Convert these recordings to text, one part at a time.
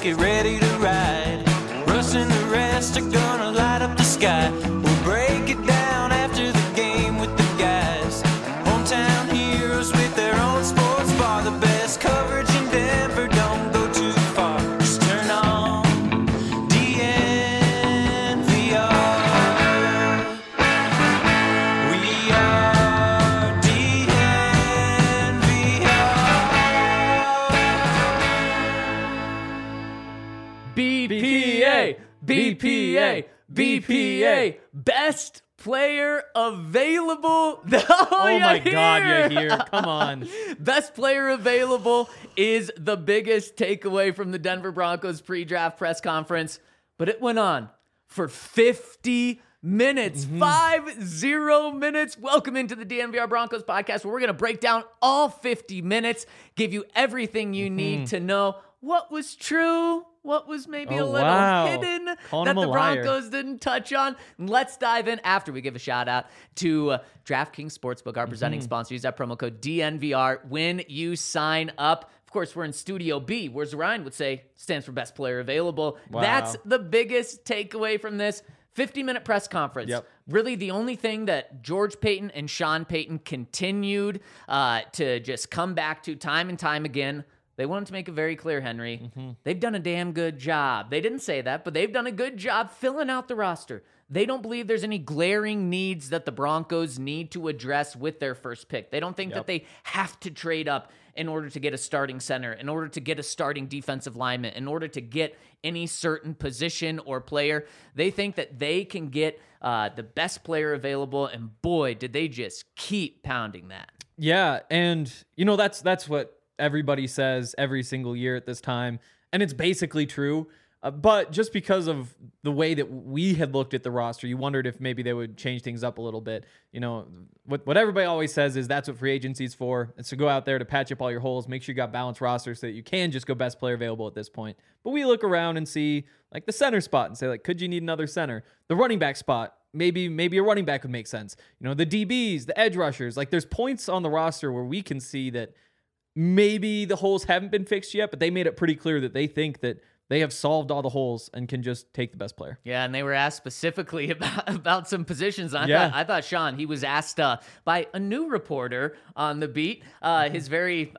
get ready to ride. Russ and the rest are gonna light up the sky. We'll break it down after the game with the guys. Hometown heroes with their own sports bar. The best coverage in Denver, don't go too far. Just turn on DNVR. We are DNVR. BPA, BPA, BPA, best player available. Oh my God, you're here. Come on. Best player available is the biggest takeaway from the Denver Broncos pre-draft press conference, but it went on for 50 minutes, 50 minutes. Welcome into the DNVR Broncos podcast, where we're going to break down all 50 minutes, give you everything you need to know. What was true? What was maybe a little hidden Calling that him a the liar. Broncos didn't touch on? Let's dive in after we give a shout out to DraftKings Sportsbook, our presenting sponsor. Use that promo code DNVR when you sign up. Of course, we're in Studio B, where Ryan would say stands for best player available. Wow. That's the biggest takeaway from this 50-minute press conference. Yep. Really, the only thing that George Paton and Sean Payton continued to just come back to time and time again. They wanted to make it very clear, Henry. They've done a damn good job. They didn't say that, but they've done a good job filling out the roster. They don't believe there's any glaring needs that the Broncos need to address with their first pick. They don't think that they have to trade up in order to get a starting center, in order to get a starting defensive lineman, in order to get any certain position or player. They think that they can get the best player available, and boy, did they just keep pounding that. Yeah, and that's what everybody says every single year at this time, and it's basically true. But just because of the way that we had looked at the roster, you wondered if maybe they would change things up a little bit. What everybody always says is that's what free agency is for. It's to go out there to patch up all your holes, make sure you got balanced rosters so that you can just go best player available at this point. But we look around and see like the center spot and say, like, could you need another center? The running back spot, maybe a running back would make sense. The DBs, the edge rushers, like there's points on the roster where we can see that maybe the holes haven't been fixed yet, but they made it pretty clear that they think that they have solved all the holes and can just take the best player. Yeah, and they were asked specifically about some positions. I thought Sean, he was asked by a new reporter on the beat, his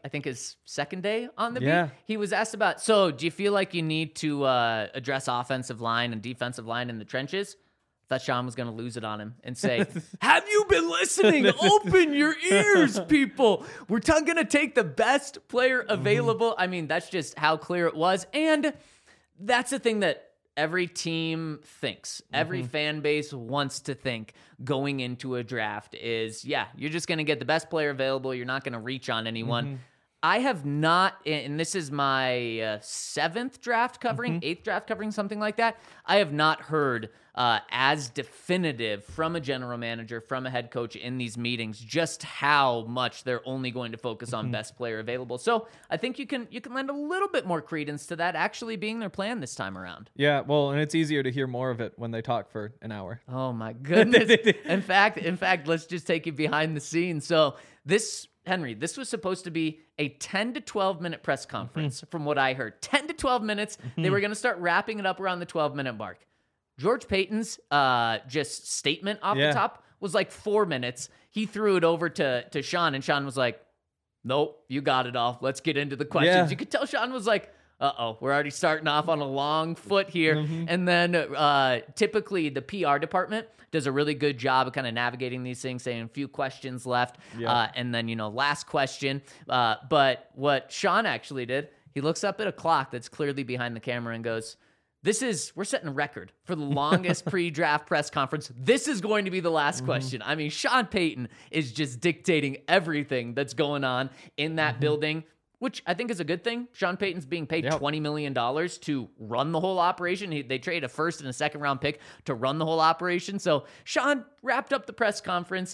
second day on the beat. He was asked about, so do you feel like you need to address offensive line and defensive line in the trenches? Thought Sean was going to lose it on him and say, have you been listening? Open your ears, people. We're going to take the best player available. I mean, that's just how clear it was. And that's the thing that every team thinks. Every fan base wants to think going into a draft is, you're just going to get the best player available. You're not going to reach on anyone. I have not, and this is my 7th draft covering, 8th draft covering, something like that. I have not heard as definitive from a general manager, from a head coach in these meetings, just how much they're only going to focus on best player available. So I think you can lend a little bit more credence to that actually being their plan this time around. Yeah, well, and it's easier to hear more of it when they talk for an hour. Oh my goodness. In fact, let's just take you behind the scenes. So Henry, this was supposed to be a 10 to 12 minute press conference from what I heard. 10 to 12 minutes. They were going to start wrapping it up around the 12-minute mark. George Paton's just statement off the top was like 4 minutes. He threw it over to Sean, and Sean was like, nope, you got it all. Let's get into the questions. Yeah. You could tell Sean was like, we're already starting off on a long foot here. And then typically the PR department does a really good job of kind of navigating these things, saying a few questions left. And then, last question. But what Sean actually did, he looks up at a clock that's clearly behind the camera and goes, we're setting a record for the longest pre-draft press conference. This is going to be the last question. I mean, Sean Payton is just dictating everything that's going on in that building, which I think is a good thing. Sean Payton's being paid $20 million to run the whole operation. They traded a first and a second round pick to run the whole operation. So Sean wrapped up the press conference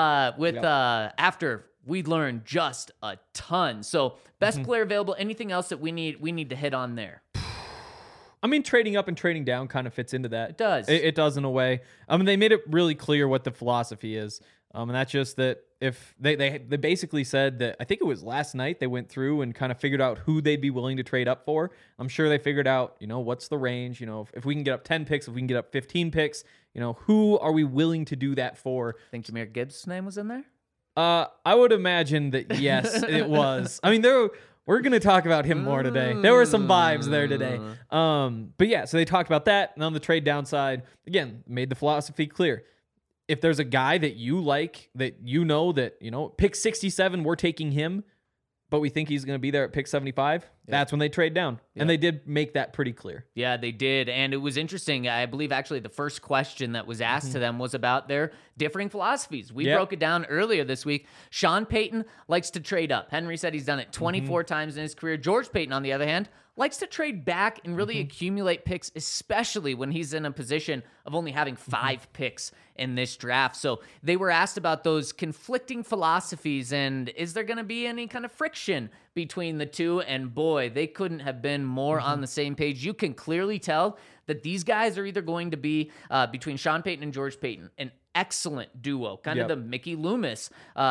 after we learned just a ton. So best player available. Anything else that we need to hit on there? I mean, trading up and trading down kind of fits into that. It does. It does in a way. I mean, they made it really clear what the philosophy is. And that's just that if they basically said that, I think it was last night, they went through and kind of figured out who they'd be willing to trade up for. I'm sure they figured out, what's the range, if we can get up 10 picks, if we can get up 15 picks, who are we willing to do that for? I think Jahmyr Gibbs' name was in there? I would imagine that, yes, it was. I mean, we're going to talk about him more today. There were some vibes there today. But yeah, so they talked about that. And on the trade downside, again, made the philosophy clear. If there's a guy that you like, that pick 67, we're taking him, but we think he's going to be there at pick 75, that's when they trade down. Yeah. And they did make that pretty clear. Yeah, they did. And it was interesting. I believe actually the first question that was asked to them was about their differing philosophies. We broke it down earlier this week. Sean Payton likes to trade up. Henry said he's done it 24 times in his career. George Payton, on the other hand, likes to trade back and really accumulate picks, especially when he's in a position of only having 5 picks in this draft. So they were asked about those conflicting philosophies and is there going to be any kind of friction between the two? And boy, they couldn't have been more on the same page. You can clearly tell that these guys are either going to be, between Sean Payton and George Payton, an excellent duo, kind of the Mickey Loomis,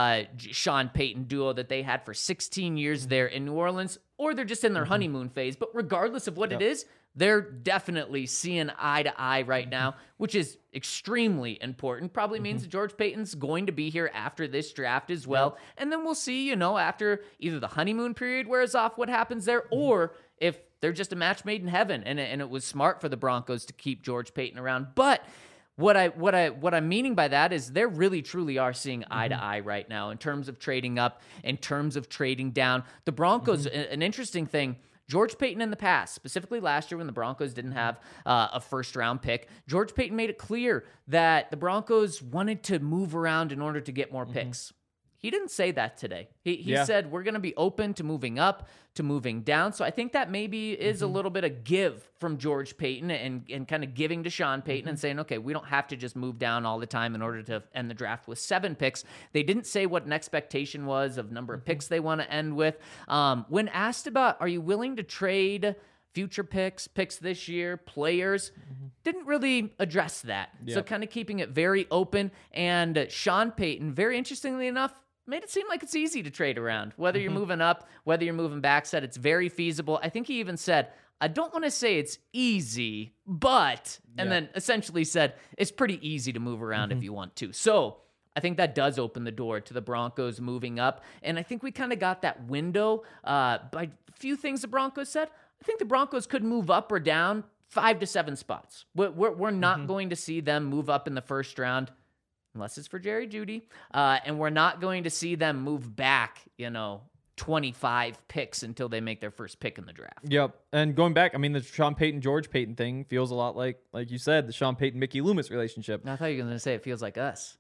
Sean Payton duo that they had for 16 years there in New Orleans, or they're just in their honeymoon phase. But regardless of what it is, they're definitely seeing eye to eye right now, which is extremely important. Probably means that George Payton's going to be here after this draft as well. And then we'll see, after either the honeymoon period wears off, what happens there, or if they're just a match made in heaven and it was smart for the Broncos to keep George Payton around. But what I'm meaning by that is they really truly are seeing eye to eye right now in terms of trading up, in terms of trading down. The Broncos, an interesting thing, George Payton in the past, specifically last year when the Broncos didn't have a first-round pick, George Payton made it clear that the Broncos wanted to move around in order to get more picks. He didn't say that today. He said, we're going to be open to moving up, to moving down. So I think that maybe is a little bit of give from George Payton and kind of giving to Sean Payton and saying, okay, we don't have to just move down all the time in order to end the draft with 7 picks. They didn't say what an expectation was of number of picks they want to end with. When asked about, are you willing to trade future picks this year, players, didn't really address that. So kind of keeping it very open. And Sean Payton, very interestingly enough, made it seem like it's easy to trade around. Whether you're moving up, whether you're moving back, said it's very feasible. I think he even said, I don't want to say it's easy, but, and then essentially said, it's pretty easy to move around if you want to. So I think that does open the door to the Broncos moving up. And I think we kind of got that window by a few things the Broncos said. I think the Broncos could move up or down 5 to 7 spots. We're not going to see them move up in the first round unless it's for Jerry Jeudy. And we're not going to see them move back, 25 picks until they make their first pick in the draft. Yep. And going back, I mean, the Sean Payton, George Payton thing feels a lot like you said, the Sean Payton, Mickey Loomis relationship. I thought you were going to say it feels like us.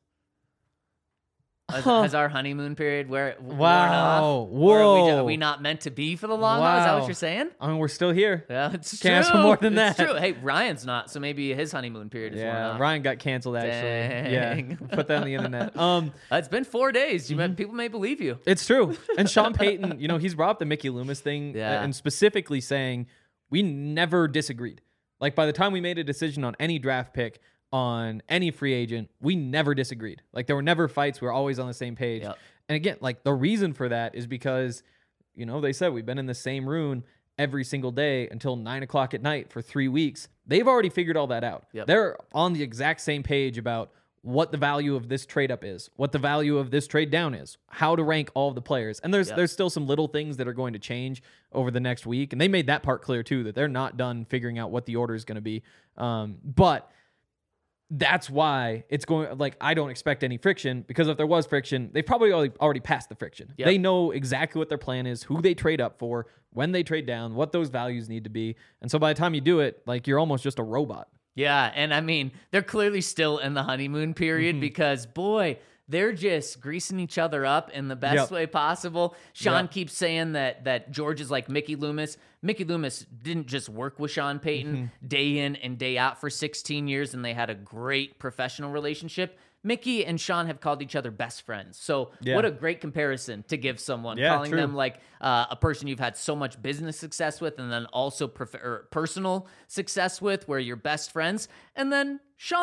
Has our honeymoon period worn off? Whoa. Are we not meant to be for the long haul? Is that what you're saying? I mean, we're still here. Yeah, it's Can't true. ask for more than that. It's true. Hey, Ryan's not, so maybe his honeymoon period is worn off. Ryan got canceled, actually. Dang. Yeah, put that on the internet. It's been 4 days. People may believe you. It's true. And Sean Payton, he's brought up the Mickey Loomis thing and specifically saying we never disagreed. Like, by the time we made a decision on any draft pick, on any free agent, we never disagreed. Like, there were never fights. We were always on the same page. Yep. And again, like, the reason for that is because, they said we've been in the same room every single day until 9:00 at night for 3 weeks. They've already figured all that out. Yep. They're on the exact same page about what the value of this trade up is, what the value of this trade down is, how to rank all of the players. And there's still some little things that are going to change over the next week. And they made that part clear too, that they're not done figuring out what the order is going to be. But that's why it's going, like, I don't expect any friction, because if there was friction, they probably already passed the friction. Yep. They know exactly what their plan is, who they trade up for, when they trade down, what those values need to be. And so by the time you do it, like, you're almost just a robot. Yeah, and I mean, they're clearly still in the honeymoon period because, boy, they're just greasing each other up in the best way possible. Sean keeps saying that George is like Mickey Loomis. Mickey Loomis didn't just work with Sean Payton day in and day out for 16 years, and they had a great professional relationship. Mickey and Sean have called each other best friends. So what a great comparison to give someone, calling true. them like a person you've had so much business success with, and then also personal success with, where you're best friends. And then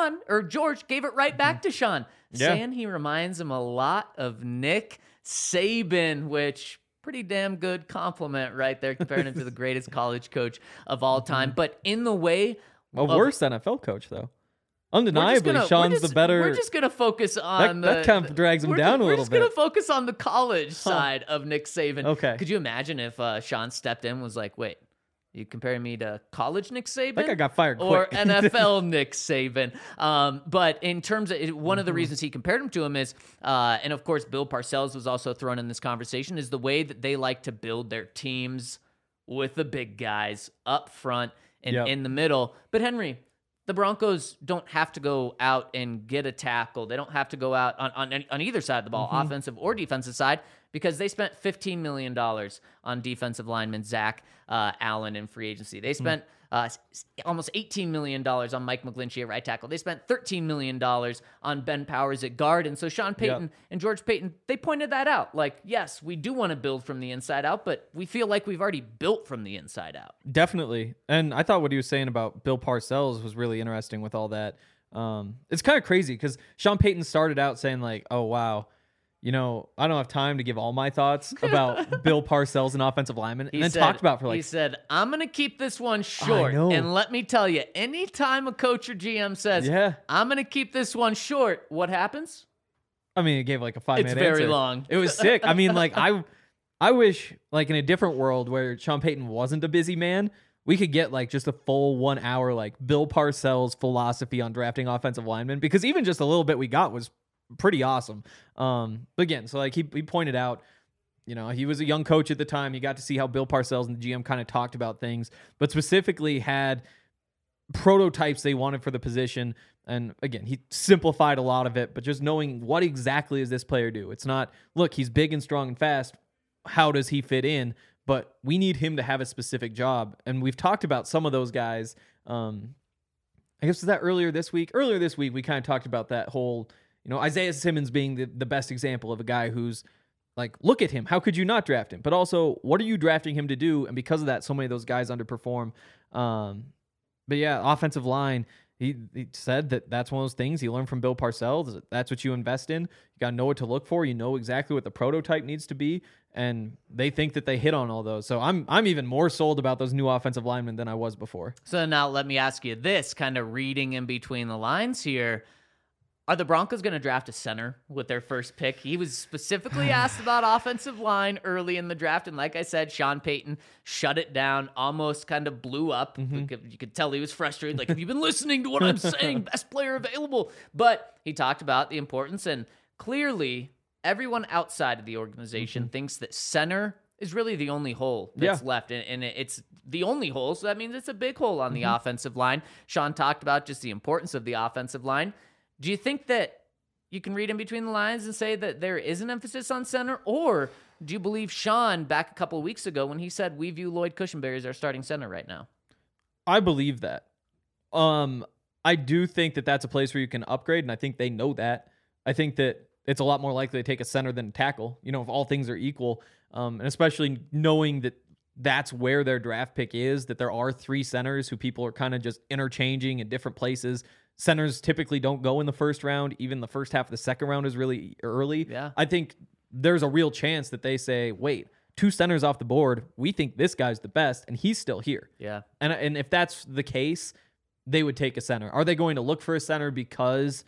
George gave it right back to Sean, saying he reminds him a lot of Nick Saban, which pretty damn good compliment right there, comparing him to the greatest college coach of all time. But in the way of worst NFL coach, though. Undeniably, Sean's the better. We're just going to focus on that kind of drags him down a little bit. We're just going to focus on the college side of Nick Saban. Okay. Could you imagine if Sean stepped in and was like, wait, you comparing me to college Nick Saban? That guy got fired or quick. NFL Nick Saban. But in terms of one of the reasons he compared him to him is, and of course Bill Parcells was also thrown in this conversation, is the way that they like to build their teams with the big guys up front and in the middle. But Henry, the Broncos don't have to go out and get a tackle. They don't have to go out on either side of the ball, offensive or defensive side, because they spent $15 million on defensive lineman Zach Allen in free agency. They spent almost $18 million on Mike McGlinchey at right tackle. They spent $13 million on Ben Powers at guard. And so Sean Payton and George Paton, they pointed that out. Like, yes, we do want to build from the inside out, but we feel like we've already built from the inside out. Definitely. And I thought what he was saying about Bill Parcells was really interesting with all that. It's kind of crazy because Sean Payton started out saying like, oh, wow, you know, I don't have time to give all my thoughts about Bill Parcells, an offensive lineman, and then talked about for like... He said, I'm going to keep this one short. And let me tell you, anytime a coach or GM says, I'm going to keep this one short, what happens? I mean, it gave like a 5-minute answer. It's very long. It was sick. I mean, like, I wish, like, in a different world where Sean Payton wasn't a busy man, we could get like just a full 1 hour, like Bill Parcells philosophy on drafting offensive linemen, because even just a little bit we got was pretty awesome. But again, so like he pointed out, you know, he was a young coach at the time. He got to see how Bill Parcells and the GM kind of talked about things, but specifically had prototypes they wanted for the position. And again, he simplified a lot of it, but just knowing what exactly does this player do? It's not, look, he's big and strong and fast. How does he fit in? But we need him to have a specific job. And we've talked about some of those guys. I guess was that earlier this week? Earlier this week, we kind of talked about that whole, you know, Isaiah Simmons being the best example of a guy who's like, look at him. How could you not draft him? But also, what are you drafting him to do? And because of that, so many of those guys underperform. But yeah, offensive line, he said that's one of those things he learned from Bill Parcells. That's what you invest in. You got to know what to look for. You know exactly what the prototype needs to be. And they think that they hit on all those. So I'm even more sold about those new offensive linemen than I was before. So now let me ask you this, kind of reading in between the lines here. Are the Broncos going to draft a center with their first pick? He was specifically asked about offensive line early in the draft. And like I said, Sean Payton shut it down, almost kind of blew up. You could tell he was frustrated. Like, have you been listening to what I'm saying? Best player available. But he talked about the importance. And clearly, everyone outside of the organization thinks that center is really the only hole that's left. And it's the only hole. So that means it's a big hole on the offensive line. Sean talked about just the importance of the offensive line. Do you think that you can read in between the lines and say that there is an emphasis on center? Or do you believe Sean back a couple of weeks ago when he said, we view Lloyd Cushenberry as our starting center right now? I believe that. I do think that that's a place where you can upgrade, and I think they know that. I think that it's a lot more likely to take a center than a tackle, you know, if all things are equal. And especially knowing that that's where their draft pick is, that there are 3 centers who people are kind of just interchanging in different places. Centers typically don't go in the first round. Even the first half of the second round is really early. Yeah. I think there's a real chance that they say, wait, 2 centers off the board. We think this guy's the best, and he's still here. Yeah. And if that's the case, they would take a center. Are they going to look for a center because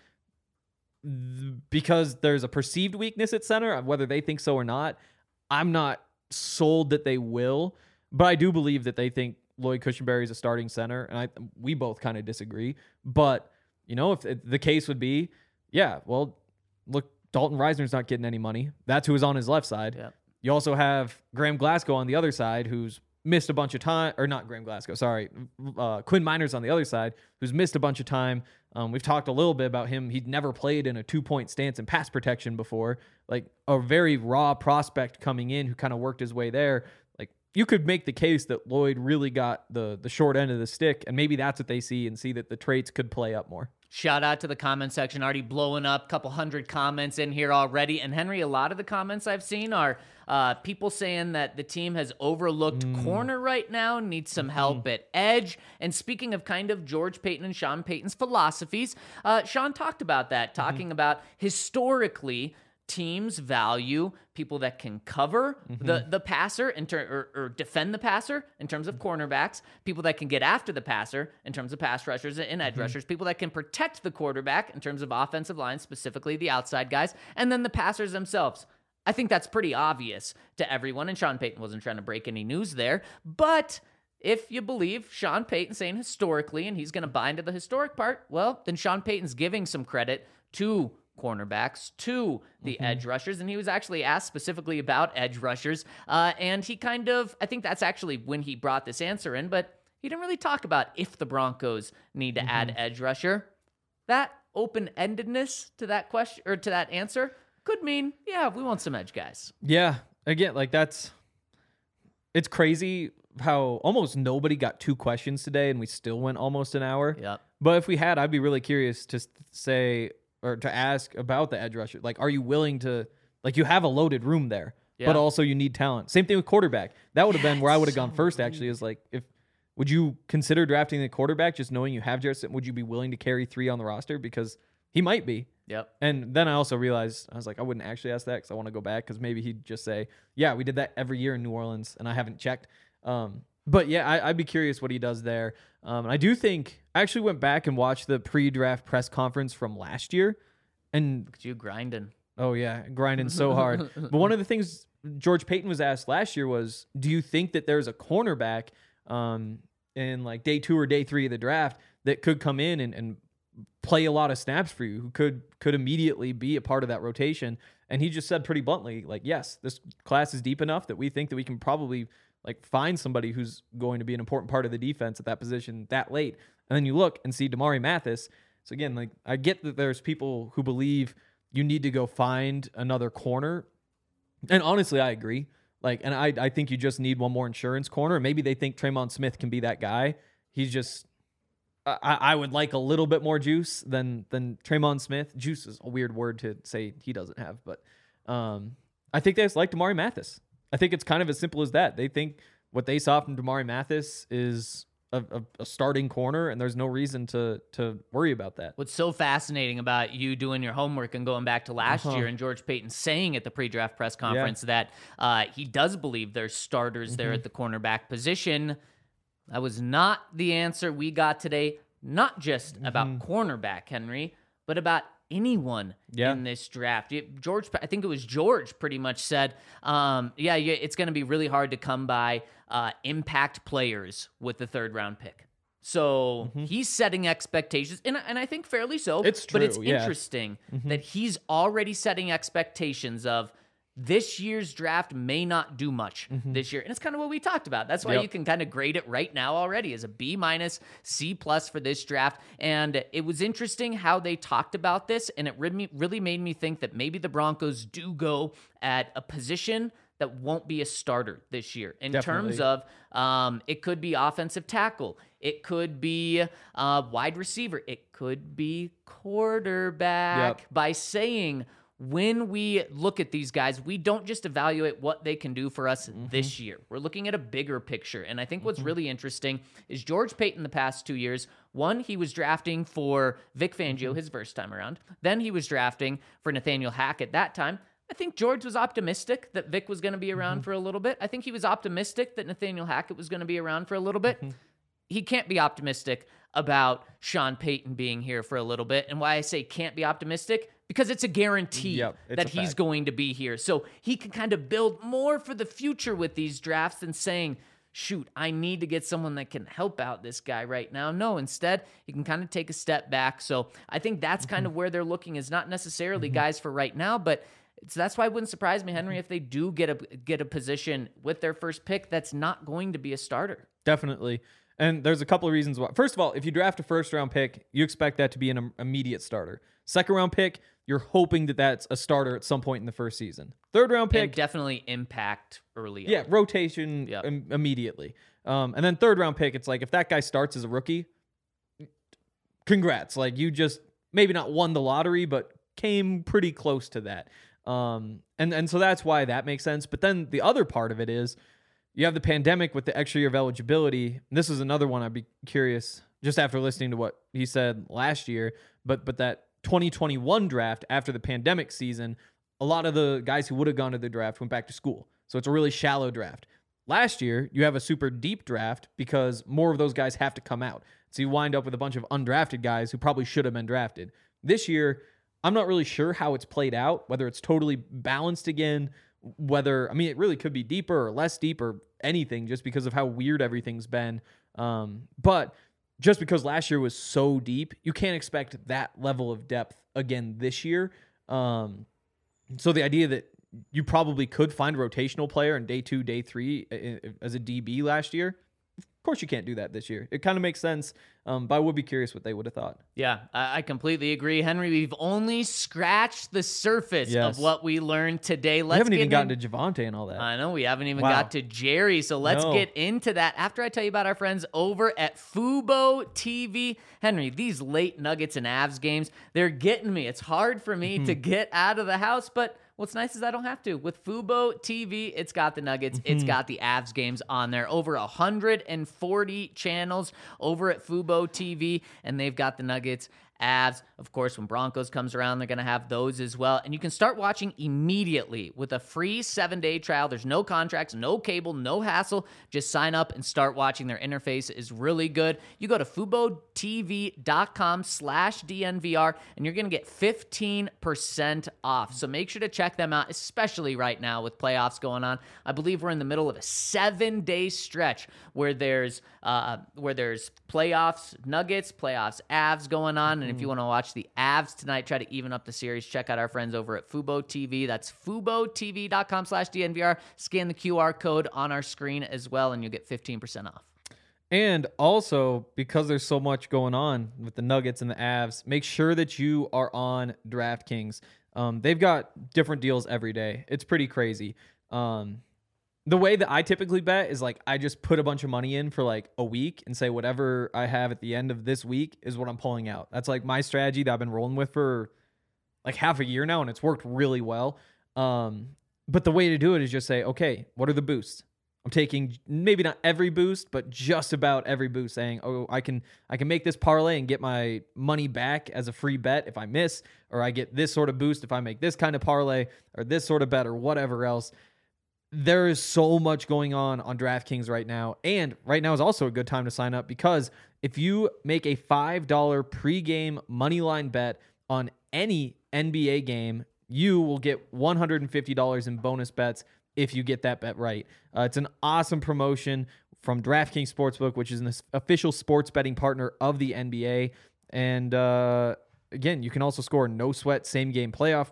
there's a perceived weakness at center, whether they think so or not? I'm not sold that they will, but I do believe that they think Lloyd Cushenberry is a starting center, and we both kind of disagree. But, you know, if the case would be, yeah, well, look, Dalton Reisner's not getting any money. That's who is on his left side. Yeah. You also have Graham Glasgow on the other side, who's missed a bunch of time, or not Graham Glasgow, sorry. Quinn Miners on the other side, who's missed a bunch of time. We've talked a little bit about him. He'd never played in a 2-point stance in pass protection before. Like a very raw prospect coming in who kind of worked his way there. Like you could make the case that Lloyd really got the short end of the stick, and maybe that's what they see and see that the traits could play up more. Shout out to the comment section, already blowing up, couple hundred comments in here already. And Henry, a lot of the comments I've seen are people saying that the team has overlooked corner right now, needs some help at edge. And speaking of kind of George Paton and Sean Payton's philosophies, Sean talked about that, talking about historically teams value people that can cover the passer or defend the passer in terms of cornerbacks, people that can get after the passer in terms of pass rushers and edge rushers, people that can protect the quarterback in terms of offensive line, specifically the outside guys, and then the passers themselves. I think that's pretty obvious to everyone, and Sean Payton wasn't trying to break any news there, but if you believe Sean Payton saying historically, and he's going to buy into the historic part, well, then Sean Payton's giving some credit to cornerbacks, to the edge rushers, and he was actually asked specifically about edge rushers, and he kind of, I think that's actually when he brought this answer in, but he didn't really talk about if the Broncos need to add edge rusher. That open-endedness to that question, or to that answer, could mean, yeah, we want some edge guys. Yeah, again, like it's crazy how almost nobody got 2 questions today, and we still went almost an hour. Yep. But if we had, I'd be really curious to say, or to ask about the edge rusher. Like, are you willing to, like, you have a loaded room there, but also you need talent. Same thing with quarterback. That would have been where I would have gone first, actually, is like, would you consider drafting the quarterback just knowing you have Jarrett? Would you be willing to carry 3 on the roster? Because he might be. Yep. And then I also realized, I was like, I wouldn't actually ask that because I want to go back, because maybe he'd just say, yeah, we did that every year in New Orleans and I haven't checked. But yeah, I'd be curious what he does there. And I do think, I actually went back and watched the pre-draft press conference from last year. And look at you grinding. Oh yeah, grinding so hard. But one of the things George Paton was asked last year was, do you think that there's a cornerback in like day 2 or day 3 of the draft that could come in and play a lot of snaps for you, who could immediately be a part of that rotation? And he just said pretty bluntly, like, yes, this class is deep enough that we think that we can probably like find somebody who's going to be an important part of the defense at that position that late. And then you look and see Damari Mathis. So again, like, I get that there's people who believe you need to go find another corner. And honestly, I agree. Like, and I think you just need one more insurance corner. Maybe they think Tremon Smith can be that guy. He's just, I would like a little bit more juice than Tremon Smith. Juice is a weird word to say he doesn't have, but I think they just like Damari Mathis. I think it's kind of as simple as that. They think what they saw from Damari Mathis is a starting corner, and there's no reason to worry about that. What's so fascinating about you doing your homework and going back to last year and George Paton saying at the pre-draft press conference that he does believe there's starters there at the cornerback position. That was not the answer we got today, not just about cornerback, Henry, but about anyone in this draft. George, I think it was George, pretty much said, it's going to be really hard to come by impact players with the 3rd round pick. So he's setting expectations, and I think fairly so. It's true, but it's interesting that he's already setting expectations of this year's draft may not do much this year. And it's kind of what we talked about. That's why you can kind of grade it right now already as a B-, C+ for this draft. And it was interesting how they talked about this, and it really made me think that maybe the Broncos do go at a position that won't be a starter this year in terms of it could be offensive tackle. It could be wide receiver. It could be quarterback. By saying, when we look at these guys, we don't just evaluate what they can do for us this year. We're looking at a bigger picture. And I think what's really interesting is George Paton the past 2 years, one, he was drafting for Vic Fangio his first time around. Then he was drafting for Nathaniel Hackett that time. I think George was optimistic that Vic was going to be around for a little bit. I think he was optimistic that Nathaniel Hackett was going to be around for a little bit. He can't be optimistic about Sean Payton being here for a little bit. And why I say can't be optimistic, because it's a guarantee that he's going to be here. So he can kind of build more for the future with these drafts than saying, shoot, I need to get someone that can help out this guy right now. No, instead, he can kind of take a step back. So I think that's kind of where they're looking, is not necessarily guys for right now, but that's why it wouldn't surprise me, Henry, if they do get a position with their first pick that's not going to be a starter. Definitely. And there's a couple of reasons why. First of all, if you draft a first-round pick, you expect that to be an immediate starter. Second-round pick, you're hoping that that's a starter at some point in the first season. Third-round pick, and definitely impact early on. Yeah, rotation immediately. And then third-round pick, it's like if that guy starts as a rookie, congrats. Like, you just maybe not won the lottery, but came pretty close to that. And so that's why that makes sense. But then the other part of it is you have the pandemic with the extra year of eligibility. And this is another one I'd be curious, just after listening to what he said last year, but that 2021 draft after the pandemic season, a lot of the guys who would have gone to the draft went back to school. So it's a really shallow draft. Last year, you have a super deep draft because more of those guys have to come out. So you wind up with a bunch of undrafted guys who probably should have been drafted. This year, I'm not really sure how it's played out, whether it's totally balanced again, it really could be deeper or less deep or anything just because of how weird everything's been. But just because last year was so deep, you can't expect that level of depth again this year. So the idea that you probably could find a rotational player in day 2, day 3 as a DB last year, of course you can't do that this year. It kind of makes sense, but I would be curious what they would have thought. Yeah, I completely agree. Henry, we've only scratched the surface of what we learned today. We haven't even gotten to Javonte and all that. I know, we haven't even got to Jerry, so let's get into that after I tell you about our friends over at Fubo TV. Henry, these late Nuggets and Avs games, they're getting me. It's hard for me to get out of the house, but what's nice is I don't have to. With Fubo TV, it's got the Nuggets, it's got the Avs games on there. Over 140 channels over at Fubo TV, and they've got the Nuggets, Avs. Of course, when Broncos comes around, they're going to have those as well. And you can start watching immediately with a free 7-day trial. There's no contracts, no cable, no hassle. Just sign up and start watching. Their interface is really good. You go to FuboTV.com/DNVR, and you're going to get 15% off. So make sure to check them out, especially right now with playoffs going on. I believe we're in the middle of a 7-day stretch where there's playoffs Nuggets, playoffs Avs going on. And if you want to watch the Avs tonight, try to even up the series, check out our friends over at Fubo TV. That's FuboTV.com/DNVR. Scan the QR code on our screen as well, and you'll get 15% off. And also, because there's so much going on with the Nuggets and the Avs, make sure that you are on DraftKings. They've got different deals every day. It's pretty crazy. The way that I typically bet is like I just put a bunch of money in for like a week and say whatever I have at the end of this week is what I'm pulling out. That's like my strategy that I've been rolling with for like half a year now, and it's worked really well. But the way to do it is just say, okay, what are the boosts? I'm taking maybe not every boost, but just about every boost, saying, oh, I can make this parlay and get my money back as a free bet if I miss, or I get this sort of boost if I make this kind of parlay, or this sort of bet, or whatever else. There is so much going on DraftKings right now. And right now is also a good time to sign up because if you make a $5 pregame moneyline bet on any NBA game, you will get $150 in bonus bets if you get that bet right. It's an awesome promotion from DraftKings Sportsbook, which is an official sports betting partner of the NBA. And again, you can also score no sweat same game parlay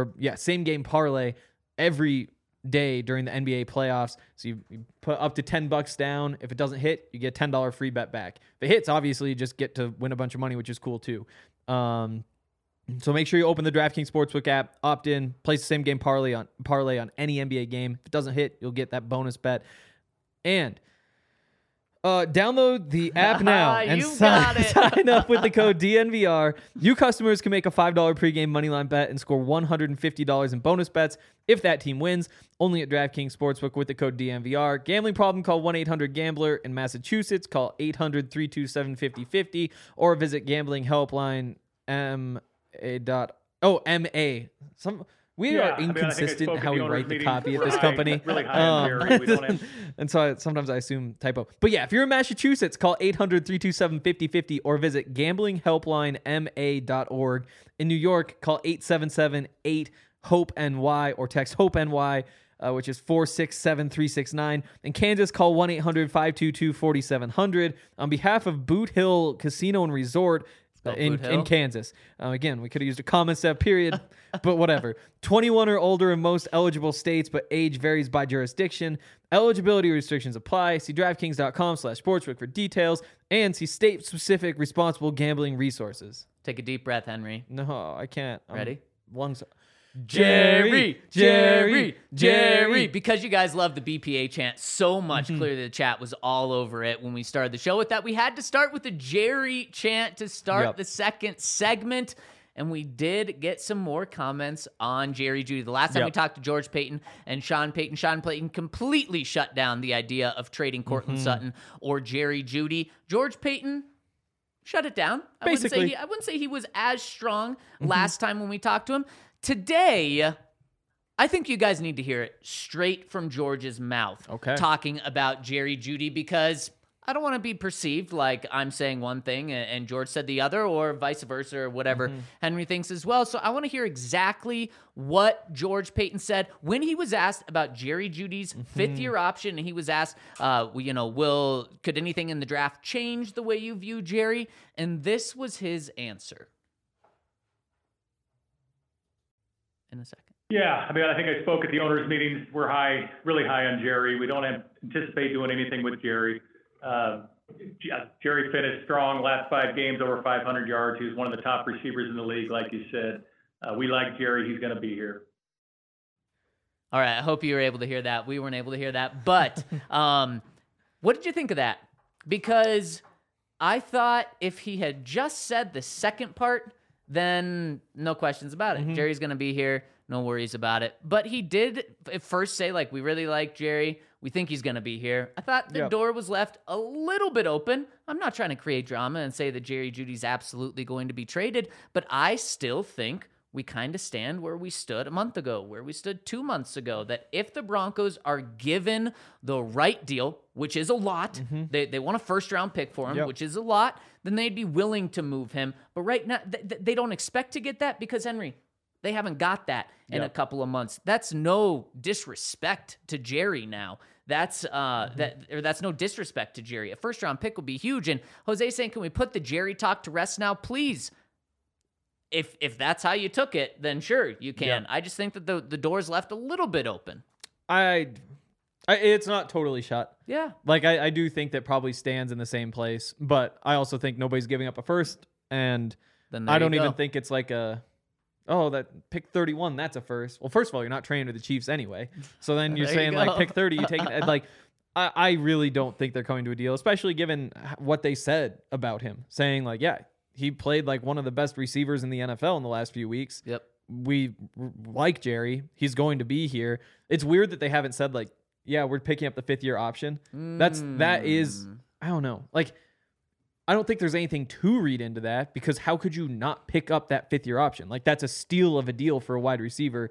every day during the NBA playoffs. So you put up to $10 down. If it doesn't hit, you get a $10 free bet back. If it hits, obviously you just get to win a bunch of money, which is cool too. So make sure you open the DraftKings Sportsbook app, opt in, place the same game parlay on any NBA game. If it doesn't hit, you'll get that bonus bet. And download the app now and sign up with the code DNVR. New customers can make a $5 pregame moneyline bet and score $150 in bonus bets if that team wins. Only at DraftKings Sportsbook with the code DNVR. Gambling problem? Call 1-800-GAMBLER. In Massachusetts, call 800-327-5050 or visit gamblinghelpline MA. We are inconsistent in how we write the copy at this company. Really and so sometimes I assume typo. But yeah, if you're in Massachusetts, call 800-327-5050 or visit gamblinghelplinema.org. In New York, call 877-8-HOPE-NY or text HOPE-NY, which is 467-369. In Kansas, call 1-800-522-4700. On behalf of Boot Hill Casino and Resort, in Kansas. Again, we could have used a comma instead of period, but whatever. 21 or older in most eligible states, but age varies by jurisdiction. Eligibility restrictions apply. See DraftKings.com/sportsbook for details and see state-specific responsible gambling resources. Take a deep breath, Henry. No, I can't. Ready? Lungs. Jerry. Because you guys love the BPA chant so much, clearly the chat was all over it when we started the show with that. We had to start with the Jerry chant to start the second segment. And we did get some more comments on Jerry Jeudy. The last time we talked to George Paton and Sean Payton completely shut down the idea of trading Courtland Sutton or Jerry Jeudy. George Paton shut it down. I wouldn't say he was as strong last time when we talked to him. Today, I think you guys need to hear it straight from George's mouth. Talking about Jerry Jeudy, because I don't want to be perceived like I'm saying one thing and George said the other, or vice versa, or whatever Henry thinks as well. So I want to hear exactly what George Paton said when he was asked about Jerry Jeudy's fifth-year option, and he was asked, could anything in the draft change the way you view Jerry? And this was his answer. In a second. Yeah, I mean, I think I spoke at the owners' meetings. We're really high on Jerry. We don't anticipate doing anything with Jerry. Jerry finished strong last 5 games, over 500 yards. He was one of the top receivers in the league, like you said. We like Jerry. He's going to be here. All right. I hope you were able to hear that. We weren't able to hear that. But what did you think of that? Because I thought if he had just said the second part, then no questions about it. Jerry's going to be here. No worries about it. But he did at first say, we really like Jerry. We think he's going to be here. I thought the door was left a little bit open. I'm not trying to create drama and say that Jerry Jeudy's absolutely going to be traded, but I still think we kind of stand where we stood a month ago, where we stood 2 months ago, that if the Broncos are given the right deal, which is a lot, they want a first-round pick for him, which is a lot, then they'd be willing to move him. But right now, they don't expect to get that because, Henry, they haven't got that in a couple of months. That's no disrespect to Jerry now. That's no disrespect to Jerry. A first-round pick would be huge. And Jose saying, can we put the Jerry talk to rest now? Please. If that's how you took it, then sure, you can. I just think that the door's left a little bit open. It's not totally shut. Yeah. I do think that probably stands in the same place, but I also think nobody's giving up a first, and then I don't even think it's that pick 31, that's a first. Well, first of all, you're not trading to the Chiefs anyway. So then you're saying pick 30, you take it. I really don't think they're coming to a deal, especially given what they said about him, saying he played like one of the best receivers in the NFL in the last few weeks. Yep. We like Jerry. He's going to be here. It's weird that they haven't said we're picking up the 5th-year option. That is, I don't know. I don't think there's anything to read into that, because how could you not pick up that 5th-year option? That's a steal of a deal for a wide receiver.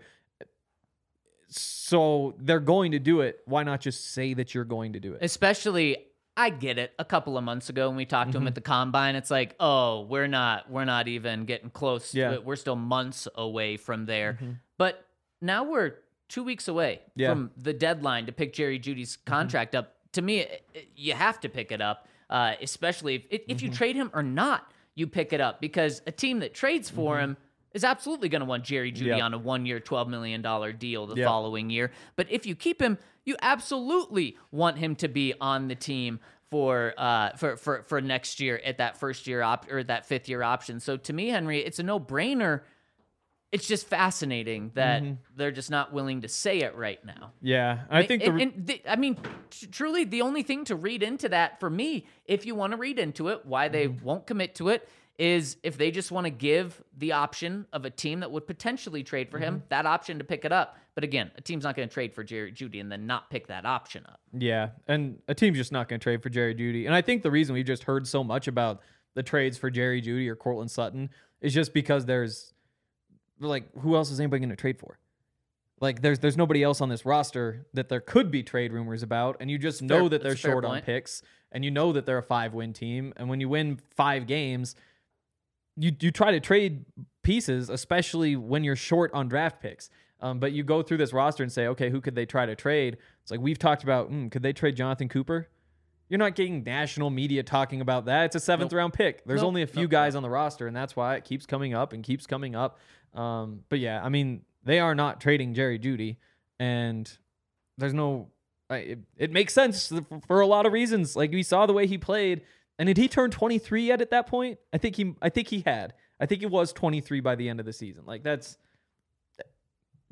So they're going to do it. Why not just say that you're going to do it? Especially, I get it. A couple of months ago when we talked to him at the Combine, it's we're not even getting close. Yeah. We're still months away from there. But now we're 2 weeks away from the deadline to pick Jerry Jeudy's contract up. To me, you have to pick it up. Especially if you trade him or not, you pick it up, because a team that trades for him is absolutely going to want Jerry Jeudy on a 1-year, $12 million deal the following year. But if you keep him, you absolutely want him to be on the team for next year at that first-year or that 5th-year option. So to me, Henry, it's a no-brainer. It's just fascinating that they're just not willing to say it right now. Yeah, I think truly, the only thing to read into that for me, if you want to read into it, why they won't commit to it, is if they just want to give the option of a team that would potentially trade for him, that option to pick it up. But again, a team's not going to trade for Jerry Jeudy and then not pick that option up. Yeah, and a team's just not going to trade for Jerry Jeudy. And I think the reason we've just heard so much about the trades for Jerry Jeudy or Courtland Sutton is just because there's who else is anybody going to trade for? There's nobody else on this roster that there could be trade rumors about, and you just know that they're short on picks, and you know that they're a 5-win team, and when you win 5 games, you try to trade pieces, especially when you're short on draft picks. But you go through this roster and say, okay, who could they try to trade? It's we've talked about, could they trade Jonathan Cooper? You're not getting national media talking about that. It's a 7th-round pick. There's only a few guys on the roster, and that's why it keeps coming up and keeps coming up. But yeah, I mean, they are not trading Jerry Jeudy, and there's no. It makes sense for a lot of reasons. We saw the way he played, and did he turn 23 yet at that point? I think he had. I think he was 23 by the end of the season.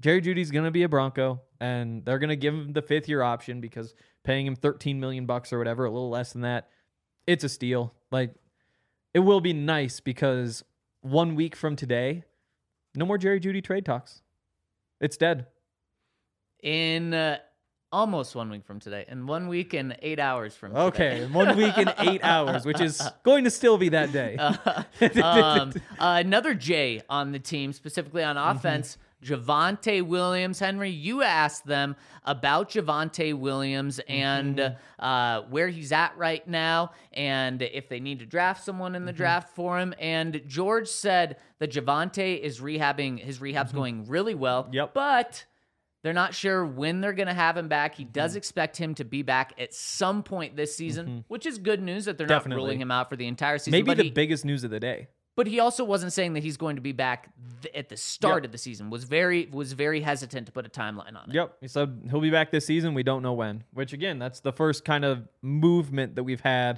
Jerry Jeudy's going to be a Bronco, and they're going to give him the 5th-year option because paying him $13 million or whatever, a little less than that, it's a steal. Like, it will be nice because 1 week from today, no more Jerry Jeudy trade talks. It's dead. In almost 1 week from today, and 1 week and 8 hours from today. Okay, 1 week and 8 hours, which is going to still be that day. Another J on the team, specifically on offense, Javonte Williams. Henry, you asked them about Javonte Williams and where he's at right now, and if they need to draft someone in the draft for him. And George said that Javonte is rehabbing. His rehab's going really well. Yep. But they're not sure when they're going to have him back. He does expect him to be back at some point this season, which is good news that they're not ruling him out for the entire season. Maybe the biggest news of the day. But he also wasn't saying that he's going to be back at the start of the season. Was very hesitant to put a timeline on it. Yep. He said he'll be back this season. We don't know when. Which, again, that's the first kind of movement that we've had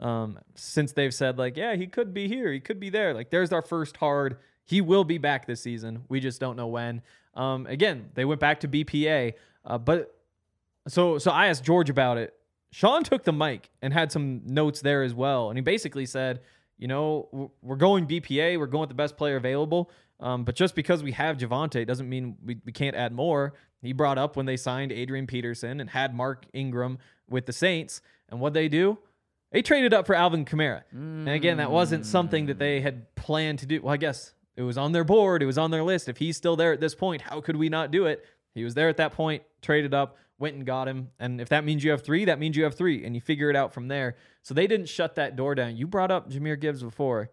since they've said, like, yeah, he could be here. He could be there. Like, there's our first hard. He will be back this season. We just don't know when. Again, they went back to BPA. But so I asked George about it. Sean took the mic and had some notes there as well. And he basically said, you know, we're going BPA. We're going with the best player available. But just because we have Javonte doesn't mean we can't add more. He brought up when they signed Adrian Peterson and had Mark Ingram with the Saints. And what they do? They traded up for Alvin Kamara. And again, that wasn't something that they had planned to do. Well, I guess it was on their board. It was on their list. If he's still there at this point, how could we not do it? He was there at that point, traded up, went and got him. And if that means you have 3, that means you have 3. And you figure it out from there. So they didn't shut that door down. You brought up Jahmyr Gibbs before.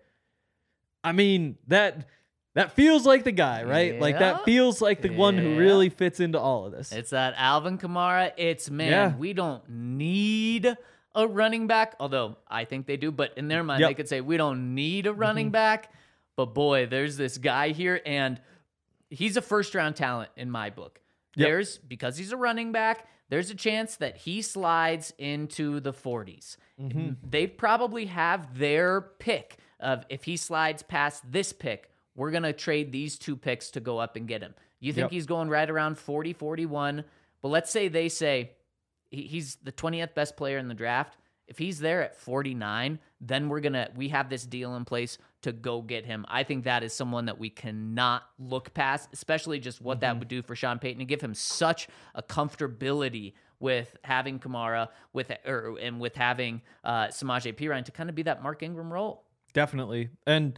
I mean, that feels like the guy, right? Yeah. Like, that feels like the one who really fits into all of this. It's that Alvin Kamara. It's, man, we don't need a running back. Although, I think they do. But in their mind, they could say, we don't need a running back. But, boy, there's this guy here. And he's a first-round talent in my book. Because he's a running back, there's a chance that he slides into the 40s. They probably have their pick of, if he slides past this pick, we're going to trade these 2 picks to go up and get him. You think he's going right around 40, 41. But let's say they say he's the 20th best player in the draft. If he's there at 49, then we have this deal in place to go get him. I think that is someone that we cannot look past, especially just what that would do for Sean Payton and give him such a comfortability with having Kamara and with having Samaje Perine to kind of be that Mark Ingram role. Definitely. And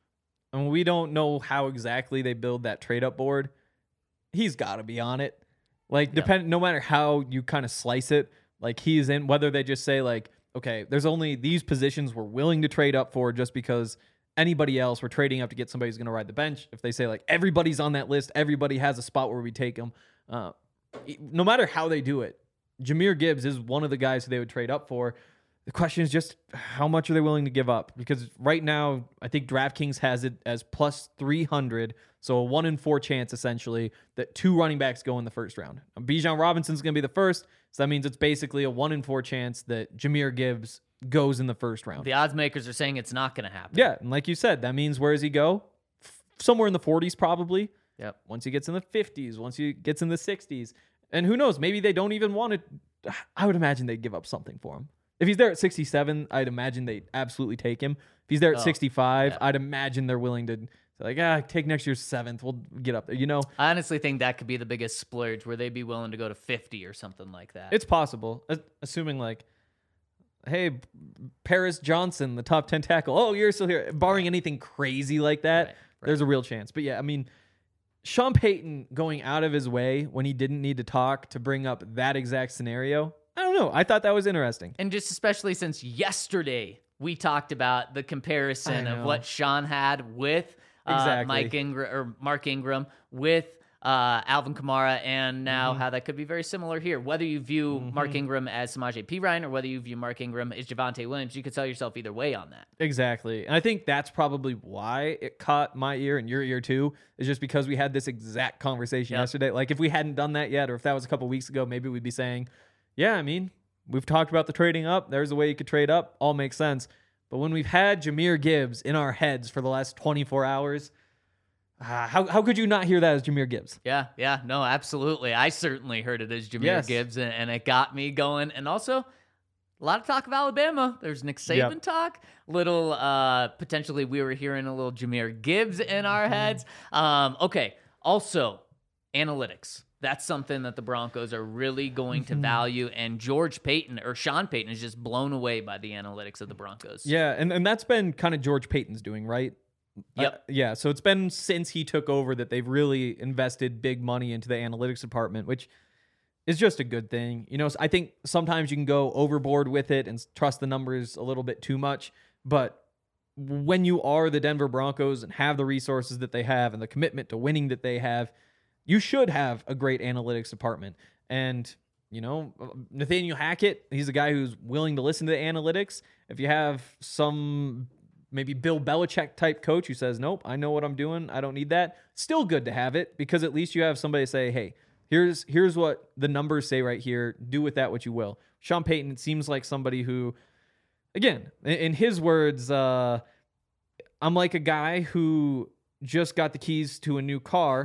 we don't know how exactly they build that trade up board. He's got to be on it. Like, no matter how you kind of slice it, like, he's in, whether they just say, like, okay, there's only these positions we're willing to trade up for just because anybody else, we're trading up to get somebody who's going to ride the bench. If they say, like, everybody's on that list, everybody has a spot where we take them. No matter how they do it, Jahmyr Gibbs is one of the guys who they would trade up for. The question is just how much are they willing to give up? Because right now, I think DraftKings has it as plus 300, so a 1 in 4 chance, essentially, that 2 running backs go in the first round. Bijan Robinson's going to be the first, so that means it's basically a 1 in 4 chance that Jahmyr Gibbs goes in the first round. The odds makers are saying it's not going to happen. Yeah, and like you said, that means where does he go? Somewhere in the 40s, probably. Yep. Once he gets in the 50s, once he gets in the 60s. And who knows, maybe they don't even want it. I would imagine they'd give up something for him. If he's there at 67, I'd imagine they'd absolutely take him. If he's there at 65, I'd imagine they're willing to say, like, take next year's 7th. We'll get up there, you know? I honestly think that could be the biggest splurge, where they'd be willing to go to 50 or something like that. It's possible, assuming, like, hey, Paris Johnson, the top 10 tackle. Oh, you're still here. Barring anything crazy like that, right. There's a real chance. But, yeah, I mean, Sean Payton going out of his way when he didn't need to talk to bring up that exact scenario, I don't know. I thought that was interesting. And just especially since yesterday we talked about the comparison of what Sean had with Mark Ingram with Alvin Kamara, and now how that could be very similar here. Whether you view Mark Ingram as Samaje Perine or whether you view Mark Ingram as Javonte Williams, you could tell yourself either way on that. Exactly. And I think that's probably why it caught my ear and your ear too, is just because we had this exact conversation yesterday. Like, if we hadn't done that yet, or if that was a couple weeks ago, maybe we'd be saying, yeah, I mean, we've talked about the trading up. There's a way you could trade up. All makes sense. But when we've had Jahmyr Gibbs in our heads for the last 24 hours, How could you not hear that as Jahmyr Gibbs? Yeah, no, absolutely. I certainly heard it as Jahmyr Gibbs, and it got me going. And also, a lot of talk of Alabama. There's Nick Saban talk. Little, potentially we were hearing a little Jahmyr Gibbs in our heads. Okay, also, analytics. That's something that the Broncos are really going to value, and Sean Payton is just blown away by the analytics of the Broncos. Yeah, and that's been kind of George Payton's doing, right? Yep. Yeah, so it's been since he took over that they've really invested big money into the analytics department, which is just a good thing. You know, I think sometimes you can go overboard with it and trust the numbers a little bit too much, but when you are the Denver Broncos and have the resources that they have and the commitment to winning that they have, you should have a great analytics department. And, you know, Nathaniel Hackett, he's a guy who's willing to listen to the analytics. If you have some maybe Bill Belichick type coach who says, nope, I know what I'm doing, I don't need that, still good to have it, because at least you have somebody say, hey, here's what the numbers say right here. Do with that what you will. Sean Payton seems like somebody who, again, in his words, I'm like a guy who just got the keys to a new car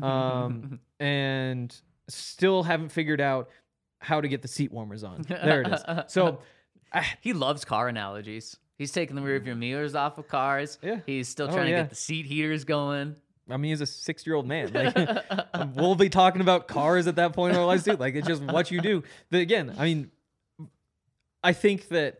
and still haven't figured out how to get the seat warmers on. There it is. So he loves car analogies. He's taking the rearview mirrors off of cars. Yeah. He's still trying to get the seat heaters going. I mean, he's a 6-year-old man. Like, we'll be talking about cars at that point in our lives too. Like, it's just what you do. But again, I mean, I think that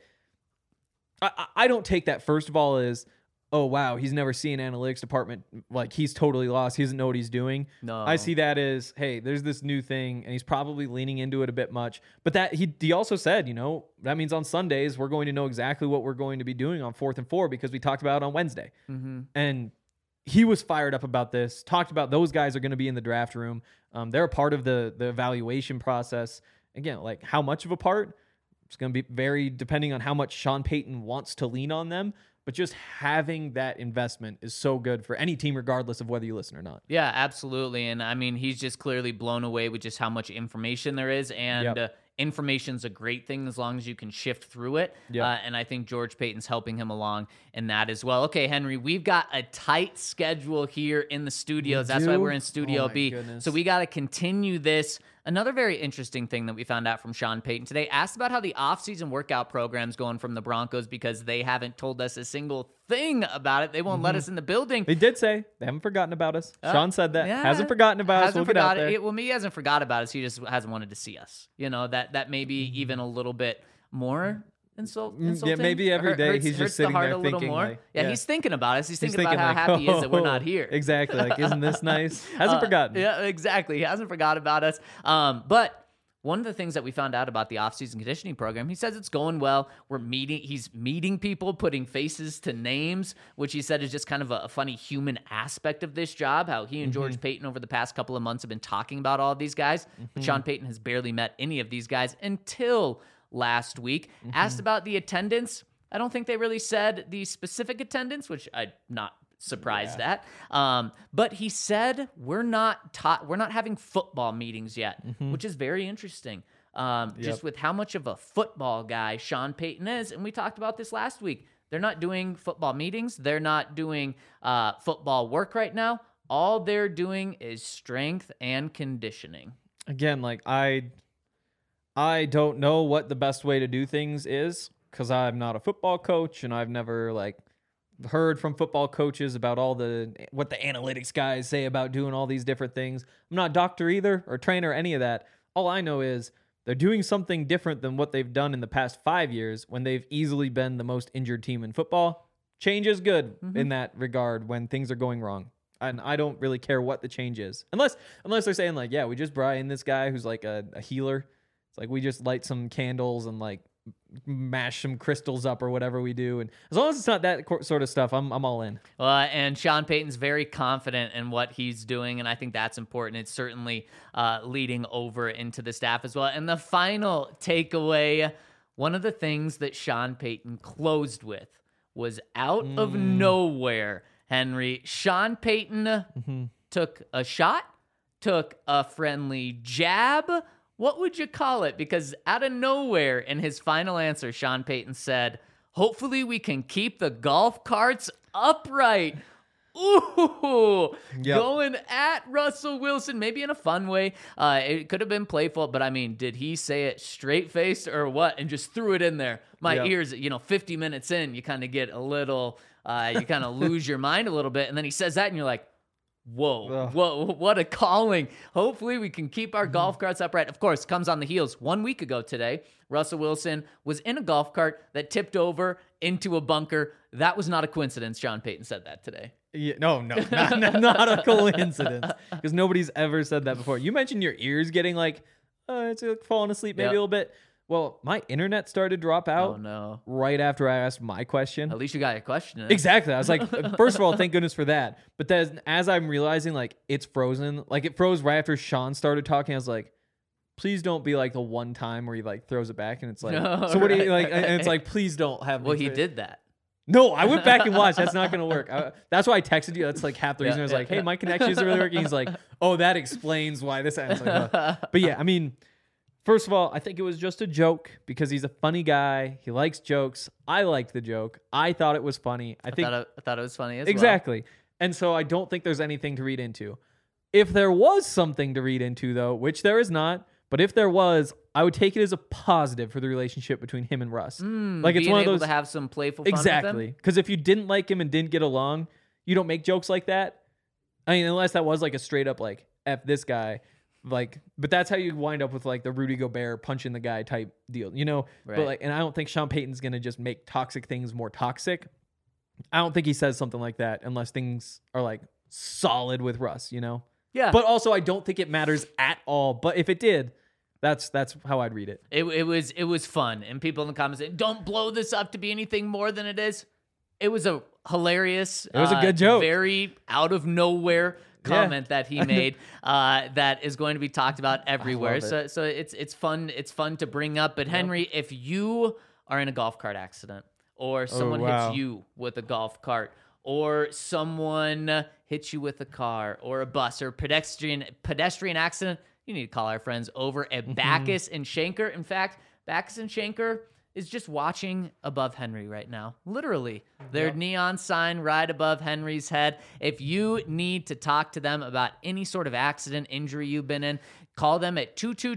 I don't take that, first of all, as, oh, wow, he's never seen an analytics department. Like, he's totally lost. He doesn't know what he's doing. No. I see that as, hey, there's this new thing, and he's probably leaning into it a bit much. But that he also said, you know, that means on Sundays, we're going to know exactly what we're going to be doing on 4th and 4 because we talked about it on Wednesday. And he was fired up about this, talked about those guys are going to be in the draft room. They're a part of the evaluation process. Again, like, how much of a part? It's going to be very depending on how much Sean Payton wants to lean on them. But just having that investment is so good for any team, regardless of whether you listen or not. Yeah, absolutely. And I mean, he's just clearly blown away with just how much information there is. And information's a great thing as long as you can shift through it. And I think George Payton's helping him along in that as well. Okay, Henry, we've got a tight schedule here in the studios. That's why we're in Studio B. Goodness. So we got to continue this. Another very interesting thing that we found out from Sean Payton today, asked about how the offseason workout program's going from the Broncos because they haven't told us a single thing about it. They won't let us in the building. They did say they haven't forgotten about us. Sean said that. Hasn't forgotten about us. We'll get out there. Well, he hasn't forgot about us. He just hasn't wanted to see us. You know, that may be even a little bit more insulting. Yeah, maybe every day he's just sitting there thinking. Like, he's thinking about us. He's thinking about how happy he is that we're not here. Exactly. Like, isn't this nice? Hasn't forgotten. Yeah, exactly. He hasn't forgot about us. But one of the things that we found out about the offseason conditioning program, he says it's going well. He's meeting people, putting faces to names, which he said is just kind of a funny human aspect of this job, how he and George Payton over the past couple of months have been talking about all of these guys. But Sean Payton has barely met any of these guys until last week. Asked about the attendance. I don't think they really said the specific attendance, which I'm not surprised at. But he said we're not having football meetings yet, which is very interesting. Just with how much of a football guy Sean Payton is, and we talked about this last week. They're not doing football meetings. They're not doing football work right now. All they're doing is strength and conditioning. Again, like I don't know what the best way to do things is because I'm not a football coach and I've never heard from football coaches about what the analytics guys say about doing all these different things. I'm not a doctor either or trainer or any of that. All I know is they're doing something different than what they've done in the past 5 years when they've easily been the most injured team in football. Change is good in that regard when things are going wrong. And I don't really care what the change is. Unless they're saying we just brought in this guy who's like a healer. It's like we just light some candles and mash some crystals up or whatever we do. And as long as it's not that sort of stuff, I'm all in. And Sean Payton's very confident in what he's doing, and I think that's important. It's certainly leading over into the staff as well. And the final takeaway, one of the things that Sean Payton closed with was out of nowhere, Henry. Sean Payton took a shot, took a friendly jab. What would you call it? Because out of nowhere, in his final answer, Sean Payton said, hopefully we can keep the golf carts upright. Ooh, going at Russell Wilson, maybe in a fun way. It could have been playful, but I mean, did he say it straight faced or what? And just threw it in there. My ears, 50 minutes in, you kind of get a little, you kind of lose your mind a little bit. And then he says that and you're like, whoa, what a calling. Hopefully we can keep our golf carts upright. Of course, comes on the heels. 1 week ago today, Russell Wilson was in a golf cart that tipped over into a bunker. That was not a coincidence. Sean Payton said that today. Yeah, no, not a coincidence, because nobody's ever said that before. You mentioned your ears getting it's like falling asleep maybe a little bit. Well, my internet started to drop out right after I asked my question. At least you got your question in. Exactly. I was like, first of all, thank goodness for that. But then as I'm realizing it's frozen, it froze right after Sean started talking, I was like, please don't be like the one time where he throws it back and it's like, so what do you like? And it's like, please don't have me. Well, he did that. No, I went back and watched. That's not going to work. That's why I texted you. That's half the reason. I was like, hey, my connection isn't really working. He's like, oh, that explains why this ends. But yeah, I mean, first of all, I think it was just a joke because he's a funny guy. He likes jokes. I liked the joke. I thought it was funny. I thought it was funny as exactly. And so I don't think there's anything to read into. If there was something to read into, though, which there is not, but if there was, I would take it as a positive for the relationship between him and Russ. It's one of those to have some playful fun exactly. Because if you didn't like him and didn't get along, you don't make jokes like that. I mean, unless that was a straight up F this guy. But that's how you wind up with the Rudy Gobert punching the guy type deal, Right. But and I don't think Sean Payton's gonna just make toxic things more toxic. I don't think he says something like that unless things are solid with Russ, Yeah. But also, I don't think it matters at all. But if it did, that's how I'd read it. It was fun, and people in the comments say, "Don't blow this up to be anything more than it is." It was a hilarious. It was a good joke. Very out of nowhere comment that he made that is going to be talked about everywhere. So it's fun. It's fun to bring up. But Henry, if you are in a golf cart accident, or someone hits you with a golf cart, or someone hits you with a car or a bus or pedestrian accident, you need to call our friends over at Backus and Schenker. In fact, Backus and Schenker is just watching above Henry right now. Literally. Their neon sign right above Henry's head. If you need to talk to them about any sort of accident, injury you've been in, call them at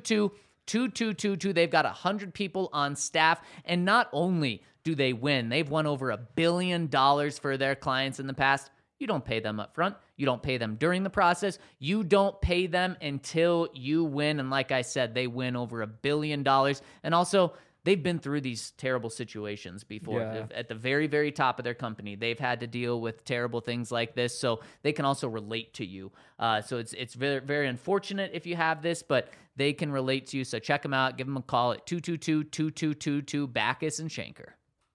222-2222. They've got 100 people on staff. And not only do they win, they've won over $1 billion for their clients in the past. You don't pay them up front. You don't pay them during the process. You don't pay them until you win. And like I said, they win over $1 billion. And also, they've been through these terrible situations before. Yeah. At the very, very top of their company, they've had to deal with terrible things like this. So they can also relate to you. So it's very, very unfortunate if you have this, but they can relate to you. So check them out. Give them a call at 222-2222, Backus and Schenker.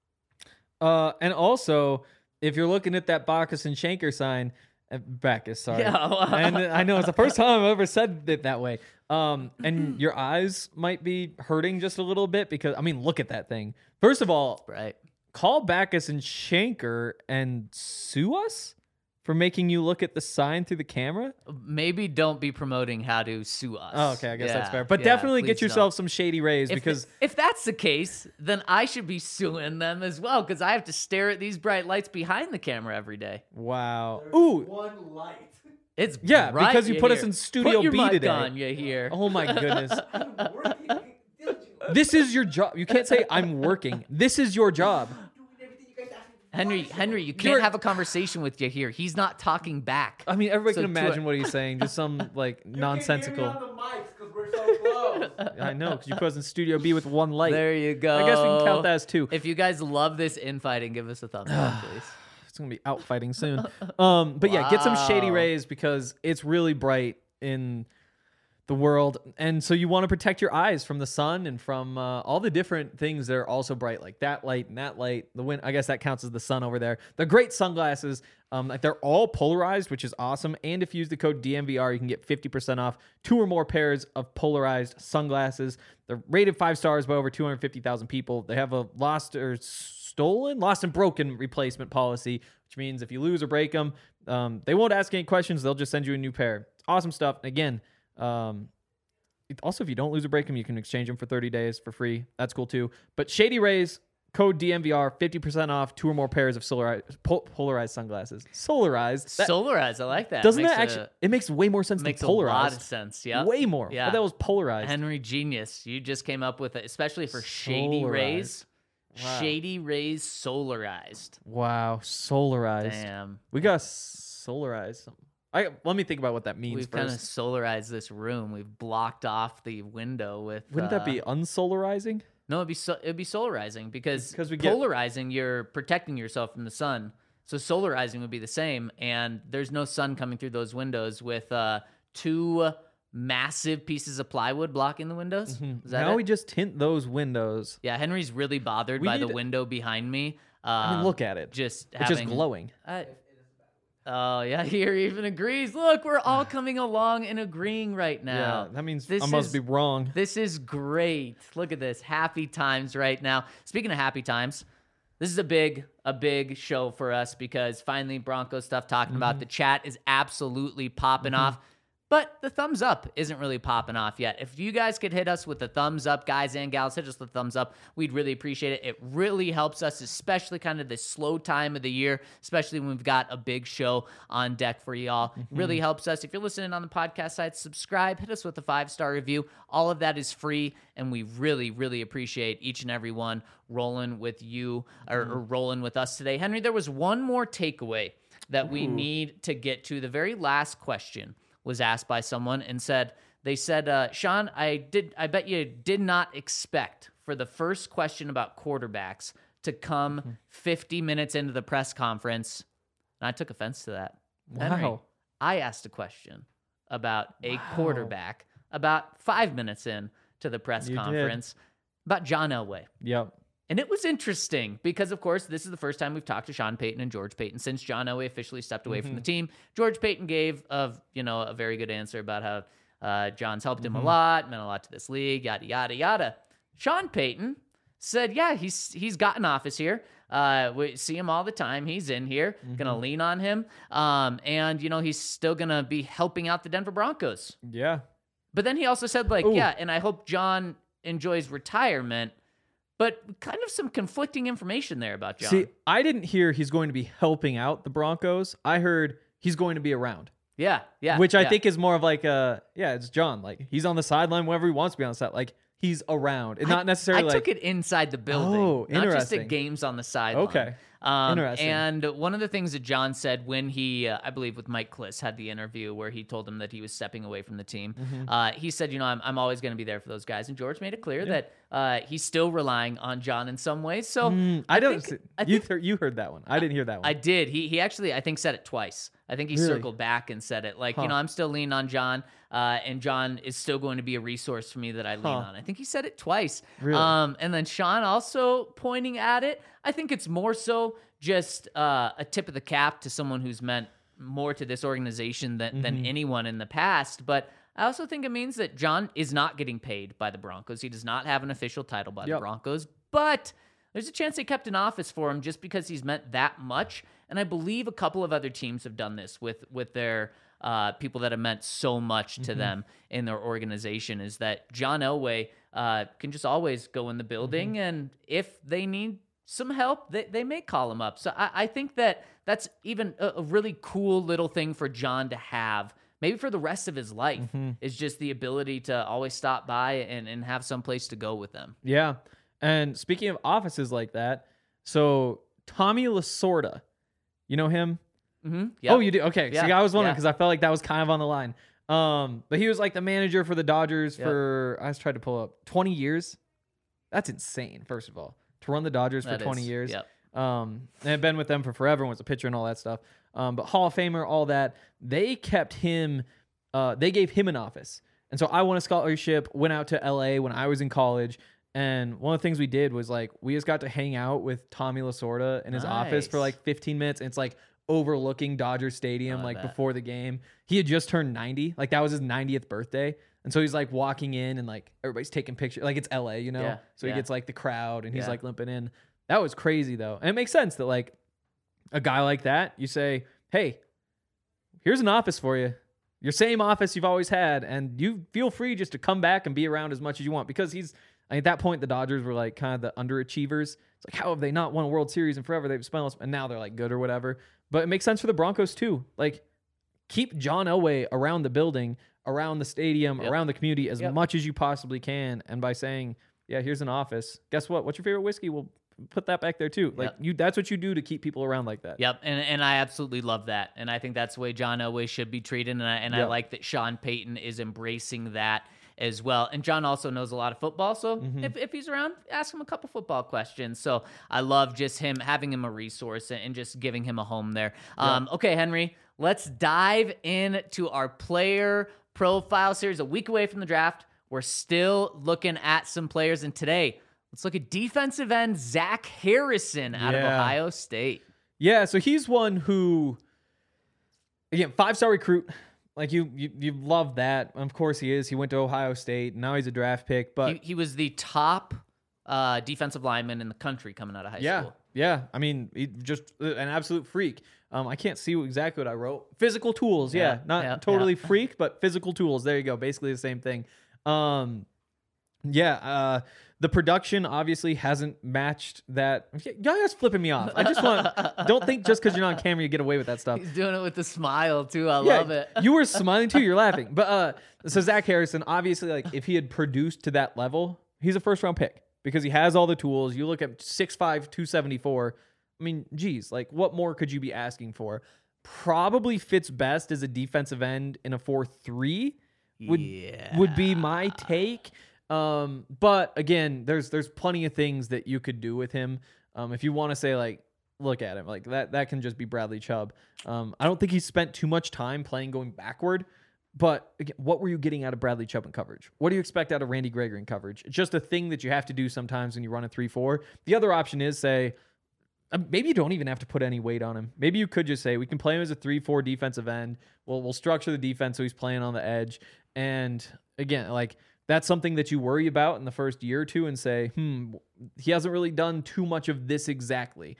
And also, if you're looking at that Backus and Schenker sign, Backus, sorry. Yeah, and I know it's the first time I've ever said it that way. And your eyes might be hurting just a little bit because, look at that thing. First of all, call Backus and Schenker and sue us for making you look at the sign through the camera? Maybe don't be promoting how to sue us. Oh, okay, I guess that's fair. But definitely get yourself some Shady Rays because... If that's the case, then I should be suing them as well because I have to stare at these bright lights behind the camera every day. Wow. There's one light. It's bright, because you put us in Studio B today. On, you hear. Oh my goodness. This is your job. You can't say I'm working. This is your job. Henry, you can't have a conversation with Yahir. He's not talking back. Everybody can imagine what he's saying. Just some nonsensical. You can't hear me on the mics because we're so close. I know, because you put us in Studio B with one light. There you go. I guess we can count that as two. If you guys love this infighting, give us a thumbs up, please. It's gonna be out fighting soon. But yeah, get some Shady Rays because it's really bright in the world, and so you want to protect your eyes from the sun and from all the different things that are also bright, like that light and that light. The wind, I guess that counts as the sun over there. They're great sunglasses. They're all polarized, which is awesome. And if you use the code DMVR, you can get 50% off 2 or more pairs of polarized sunglasses. They're rated 5 stars by over 250,000 people. They have a lost and broken replacement policy, which means if you lose or break them, they won't ask any questions. They'll just send you a new pair. Awesome stuff. Again, also, if you don't lose or break them, you can exchange them for 30 days for free. That's cool too. But Shady Rays, Code DMVR, 50% off 2 or more pairs of polarized sunglasses. Solarized. Solarized, I like that. Doesn't that actually? It makes way more sense than polarized. Makes a lot of sense, yeah. Way more. Yeah. But that was polarized. Henry, genius. You just came up with it, especially for Shady Rays. Wow. Shady Rays solarized. Wow, solarized. Damn. We got solarized. Let me think about what that means. We've kind of solarized this room. We've blocked off the window with. Wouldn't that be unsolarizing? No, it'd be solarizing because polarizing, you're protecting yourself from the sun. So solarizing would be the same, and there's no sun coming through those windows with 2 massive pieces of plywood blocking the windows. Mm-hmm. Is that now it? We just tint those windows. Yeah, Henry's really bothered by the window behind me. I mean, look at it. It's just glowing. Oh, yeah, here even agrees. Look, we're all coming along and agreeing right now. Yeah, that means I must be wrong. This is great. Look at this. Happy times right now. Speaking of happy times, this is a big show for us because finally Broncos stuff talking about. The chat is absolutely popping off. But the thumbs up isn't really popping off yet. If you guys could hit us with the thumbs up, guys and gals, hit us with the thumbs up. We'd really appreciate it. It really helps us, especially kind of this slow time of the year, especially when we've got a big show on deck for y'all. Really helps us. If you're listening on the podcast side, subscribe, hit us with a 5-star review. All of that is free, and we really, really appreciate each and every one rolling with you or rolling with us today. Henry, there was one more takeaway that we need to get to. The very last question was asked by someone and they said, Sean, I bet you did not expect for the first question about quarterbacks to come 50 minutes into the press conference. And I took offense to that. Wow. Henry, I asked a question about a quarterback about 5 minutes in to the press conference about John Elway. Yep. And it was interesting because, of course, this is the first time we've talked to Sean Payton and George Payton since John Elway officially stepped away from the team. George Payton gave a very good answer about how John's helped him a lot, meant a lot to this league, yada, yada, yada. Sean Payton said, yeah, he's got an office here. We see him all the time. He's in here. Gonna lean on him. And he's still gonna be helping out the Denver Broncos. Yeah. But then he also said, yeah, and I hope John enjoys retirement. But kind of some conflicting information there about John. See, I didn't hear he's going to be helping out the Broncos. I heard he's going to be around. Yeah. Which I think is more of it's John. Like, he's on the sideline whenever he wants to be on the side. Like, he's around. And not necessarily I took it inside the building. Oh, not interesting. just at games on the sideline. Okay. Interesting. And one of the things that John said when he, I believe with Mike Kliss, had the interview where he told him that he was stepping away from the team, he said, I'm always going to be there for those guys. And George made it clear that he's still relying on John in some ways. So you heard that one. I didn't hear that one. I did. He actually, I think, said it twice. I think he circled back and said it. I'm still leaning on John, and John is still going to be a resource for me that I lean on. I think he said it twice. Really? And then Sean also pointing at it. I think it's more so just a tip of the cap to someone who's meant more to this organization than anyone in the past. But I also think it means that John is not getting paid by the Broncos. He does not have an official title by the Broncos. But there's a chance they kept an office for him just because he's meant that much. And I believe a couple of other teams have done this with their people that have meant so much to them in their organization, is that John Elway can just always go in the building. And if they need some help, they may call him up. So I think that's even a really cool little thing for John to have, maybe for the rest of his life, is just the ability to always stop by and have some place to go with them. Yeah. And speaking of offices like that, so Tommy Lasorda, you know him? Yep. Oh, you do? Okay. Yeah. See, I was wondering because I felt like that was kind of on the line. But he was like the manager for the Dodgers for, I was trying to pull up, 20 years. That's insane, first of all. To run the Dodgers for 20 years. Yep. And I've been with them for forever and was a pitcher and all that stuff. But Hall of Famer, all that. They kept him, they gave him an office. And so I won a scholarship, went out to LA when I was in college. And one of the things we did was we just got to hang out with Tommy Lasorda in his office for 15 minutes. And it's overlooking Dodger Stadium before the game. He had just turned 90. That was his 90th birthday. And so he's walking in and everybody's taking pictures. It's LA, Yeah. So he gets the crowd and he's limping in. That was crazy though. And it makes sense that a guy like that, you say, hey, here's an office for you. Your same office you've always had. And you feel free just to come back and be around as much as you want, because he's At that point, the Dodgers were like kind of the underachievers. It's like, how have they not won a World Series in forever? They've spent, and now they're like good or whatever. But it makes sense for the Broncos too. Like, keep John Elway around the building, around the stadium, around the community as much as you possibly can. And by saying, yeah, here's an office. Guess what? What's your favorite whiskey? We'll put that back there too. Like that's what you do to keep people around like that. Yep. And I absolutely love that. And I think that's the way John Elway should be treated. And I like that Sean Payton is embracing that as well. And John also knows a lot of football. So if he's around, ask him a couple football questions. So I love just having him a resource and just giving him a home there. Okay, Henry, let's dive into our player profile series. A week away from the draft. We're still looking at some players. And today, let's look at defensive end Zach Harrison out of Ohio State. Yeah, so he's one who, again, 5-star recruit. Like you love that. Of course he is. He went to Ohio State. Now he's a draft pick. But he was the top defensive lineman in the country coming out of high school. Yeah. I mean, he just an absolute freak. I can't see exactly what I wrote. Physical tools. Not totally freak, but physical tools. There you go. Basically the same thing. The production obviously hasn't matched that. Y'all guys flipping me off. I just don't think just because you're not on camera you get away with that stuff. He's doing it with a smile too. I love it. You were smiling too. You're laughing. But so Zach Harrison, obviously, like if he had produced to that level, he's a first round pick because he has all the tools. You look at 6'5", 274. I mean, geez, like what more could you be asking for? Probably fits best as a defensive end in a 4-3. Would be my take. But again, there's plenty of things that you could do with him. If you want to say like, look at him like that can just be Bradley Chubb. I don't think he spent too much time playing going backward, but again, what were you getting out of Bradley Chubb in coverage? What do you expect out of Randy Gregory in coverage? It's just a thing that you have to do sometimes when you run a 3-4. The other option is say, maybe you don't even have to put any weight on him. Maybe you could just say, we can play him as a 3-4 defensive end. We'll structure the defense so he's playing on the edge. And again, like that's something that you worry about in the first year or two and say, he hasn't really done too much of this exactly.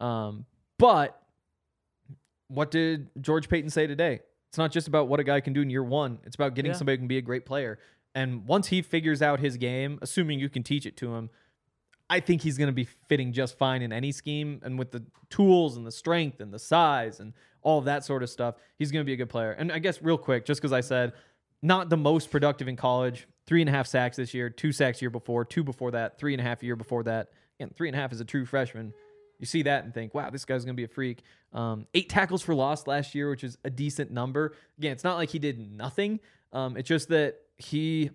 But what did George Payton say today? It's not just about what a guy can do in year one. It's about getting somebody who can be a great player. And once he figures out his game, assuming you can teach it to him, I think he's going to be fitting just fine in any scheme. And with the tools and the strength and the size and all of that sort of stuff, he's going to be a good player. And I guess real quick, just because I said not the most productive in college, 3.5 sacks this year, 2 sacks year before, 2 before that, 3.5 year before that. And 3.5 is a true freshman. You see that and think, wow, this guy's going to be a freak. 8 tackles for loss last year, which is a decent number. Again, it's not like he did nothing. It's just that he...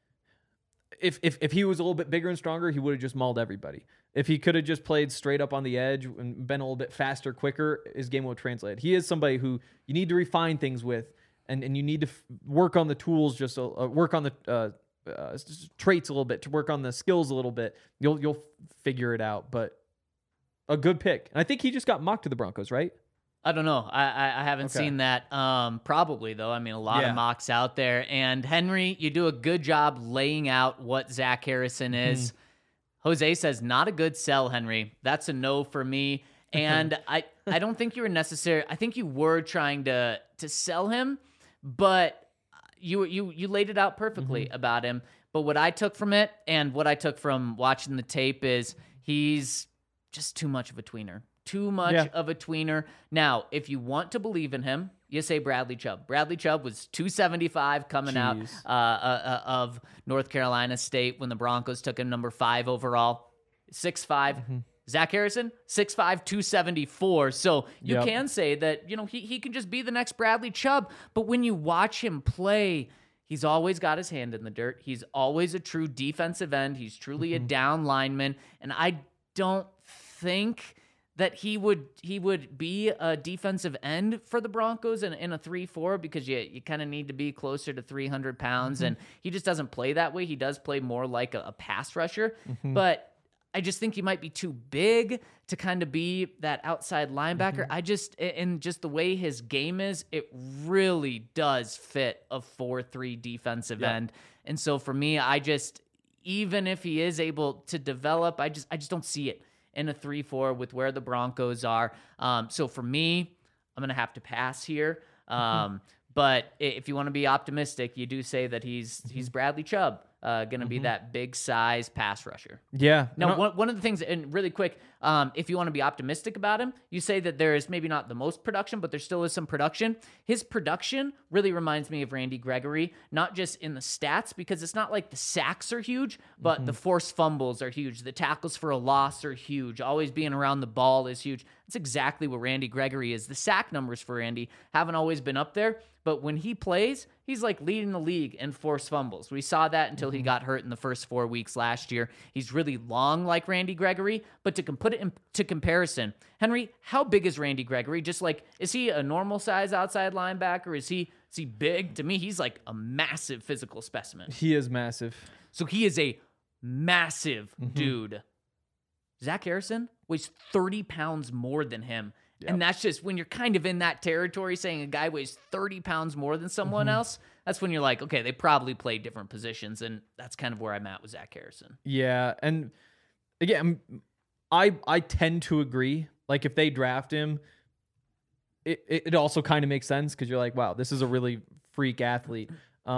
If he was a little bit bigger and stronger, he would have just mauled everybody. If he could have just played straight up on the edge and been a little bit faster, quicker, his game would have translated. He is somebody who you need to refine things with, and you need to work on the tools, just work on the traits a little bit, to work on the skills a little bit. You'll figure it out. But a good pick. And I think he just got mocked to the Broncos, right? I don't know. I haven't seen that. Probably, though. I mean, a lot of mocks out there. And Henry, you do a good job laying out what Zach Harrison is. Jose says, not a good sell, Henry. That's a no for me. And I don't think you were necessary. I think you were trying to sell him, but you laid it out perfectly about him. But what I took from it and what I took from watching the tape is he's just too much of a tweener. Too much of a tweener. Now, if you want to believe in him, you say Bradley Chubb. Bradley Chubb was 275 coming out of North Carolina State when the Broncos took him number 5 overall. 6'5". Zach Harrison, 6'5", 274. So you can say that, he can just be the next Bradley Chubb. But when you watch him play, he's always got his hand in the dirt. He's always a true defensive end. He's truly a down lineman. And I don't think that he would be a defensive end for the Broncos in a 3-4 because you kind of need to be closer to 300 pounds, and he just doesn't play that way. He does play more like a pass rusher, but I just think he might be too big to kind of be that outside linebacker. Just the way his game is, it really does fit a 4-3 defensive end. And so for me, even if he is able to develop, I just don't see it in a 3-4 with where the Broncos are. So for me, I'm going to have to pass here. But if you want to be optimistic, you do say that he's Bradley Chubb. going to be that big size pass rusher. Yeah. Now, one of the things, and really quick, if you want to be optimistic about him, you say that there is maybe not the most production, but there still is some production. His production really reminds me of Randy Gregory, not just in the stats, because it's not like the sacks are huge, but the forced fumbles are huge. The tackles for a loss are huge. Always being around the ball is huge. That's exactly what Randy Gregory is. The sack numbers for Randy haven't always been up there, but when he plays, he's like leading the league in forced fumbles. We saw that until he got hurt in the first 4 weeks last year. He's really long like Randy Gregory, but to put it into comparison, Henry, how big is Randy Gregory? Just like, is he a normal size outside linebacker? Is he big? To me, he's like a massive physical specimen. He is massive. So he is a massive dude. Zach Harrison weighs 30 pounds more than him. Yep. And that's just when you're kind of in that territory saying a guy weighs 30 pounds more than someone else. That's when you're like, okay, they probably play different positions. And that's kind of where I'm at with Zach Harrison. Yeah. And again, I tend to agree. Like if they draft him, it also kind of makes sense because you're like, wow, this is a really freak athlete.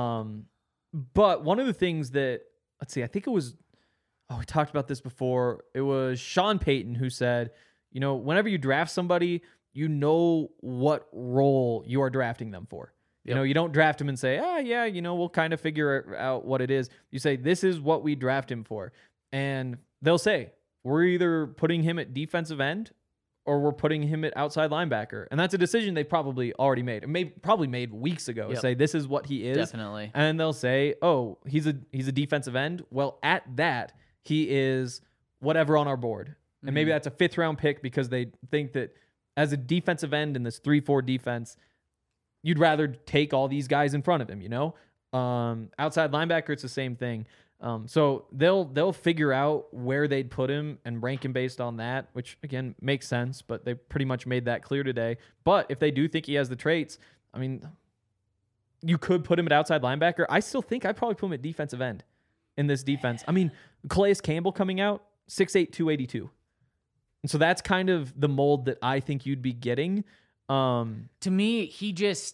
But one of the things that, let's see, I think it was, we talked about this before. It was Sean Payton who said, you know, whenever you draft somebody, you know what role you are drafting them for. You know, you don't draft him and say, yeah, you know, we'll kind of figure out what it is. You say, this is what we draft him for. And they'll say, we're either putting him at defensive end or we're putting him at outside linebacker. And that's a decision they probably already made. Probably made weeks ago. Say, this is what he is. Definitely. And they'll say, oh, he's a defensive end. Well, at that, he is whatever on our board. And maybe that's a 5th round pick because they think that as a defensive end in this 3-4 defense, you'd rather take all these guys in front of him, you know? Outside linebacker, it's the same thing. So they'll figure out where they'd put him and rank him based on that, which again makes sense, but they pretty much made that clear today. But if they do think he has the traits, I mean, you could put him at outside linebacker. I still think I'd probably put him at defensive end in this defense. I mean, Calais Campbell coming out, 6'8", 282. And so that's kind of the mold that I think you'd be getting. To me, he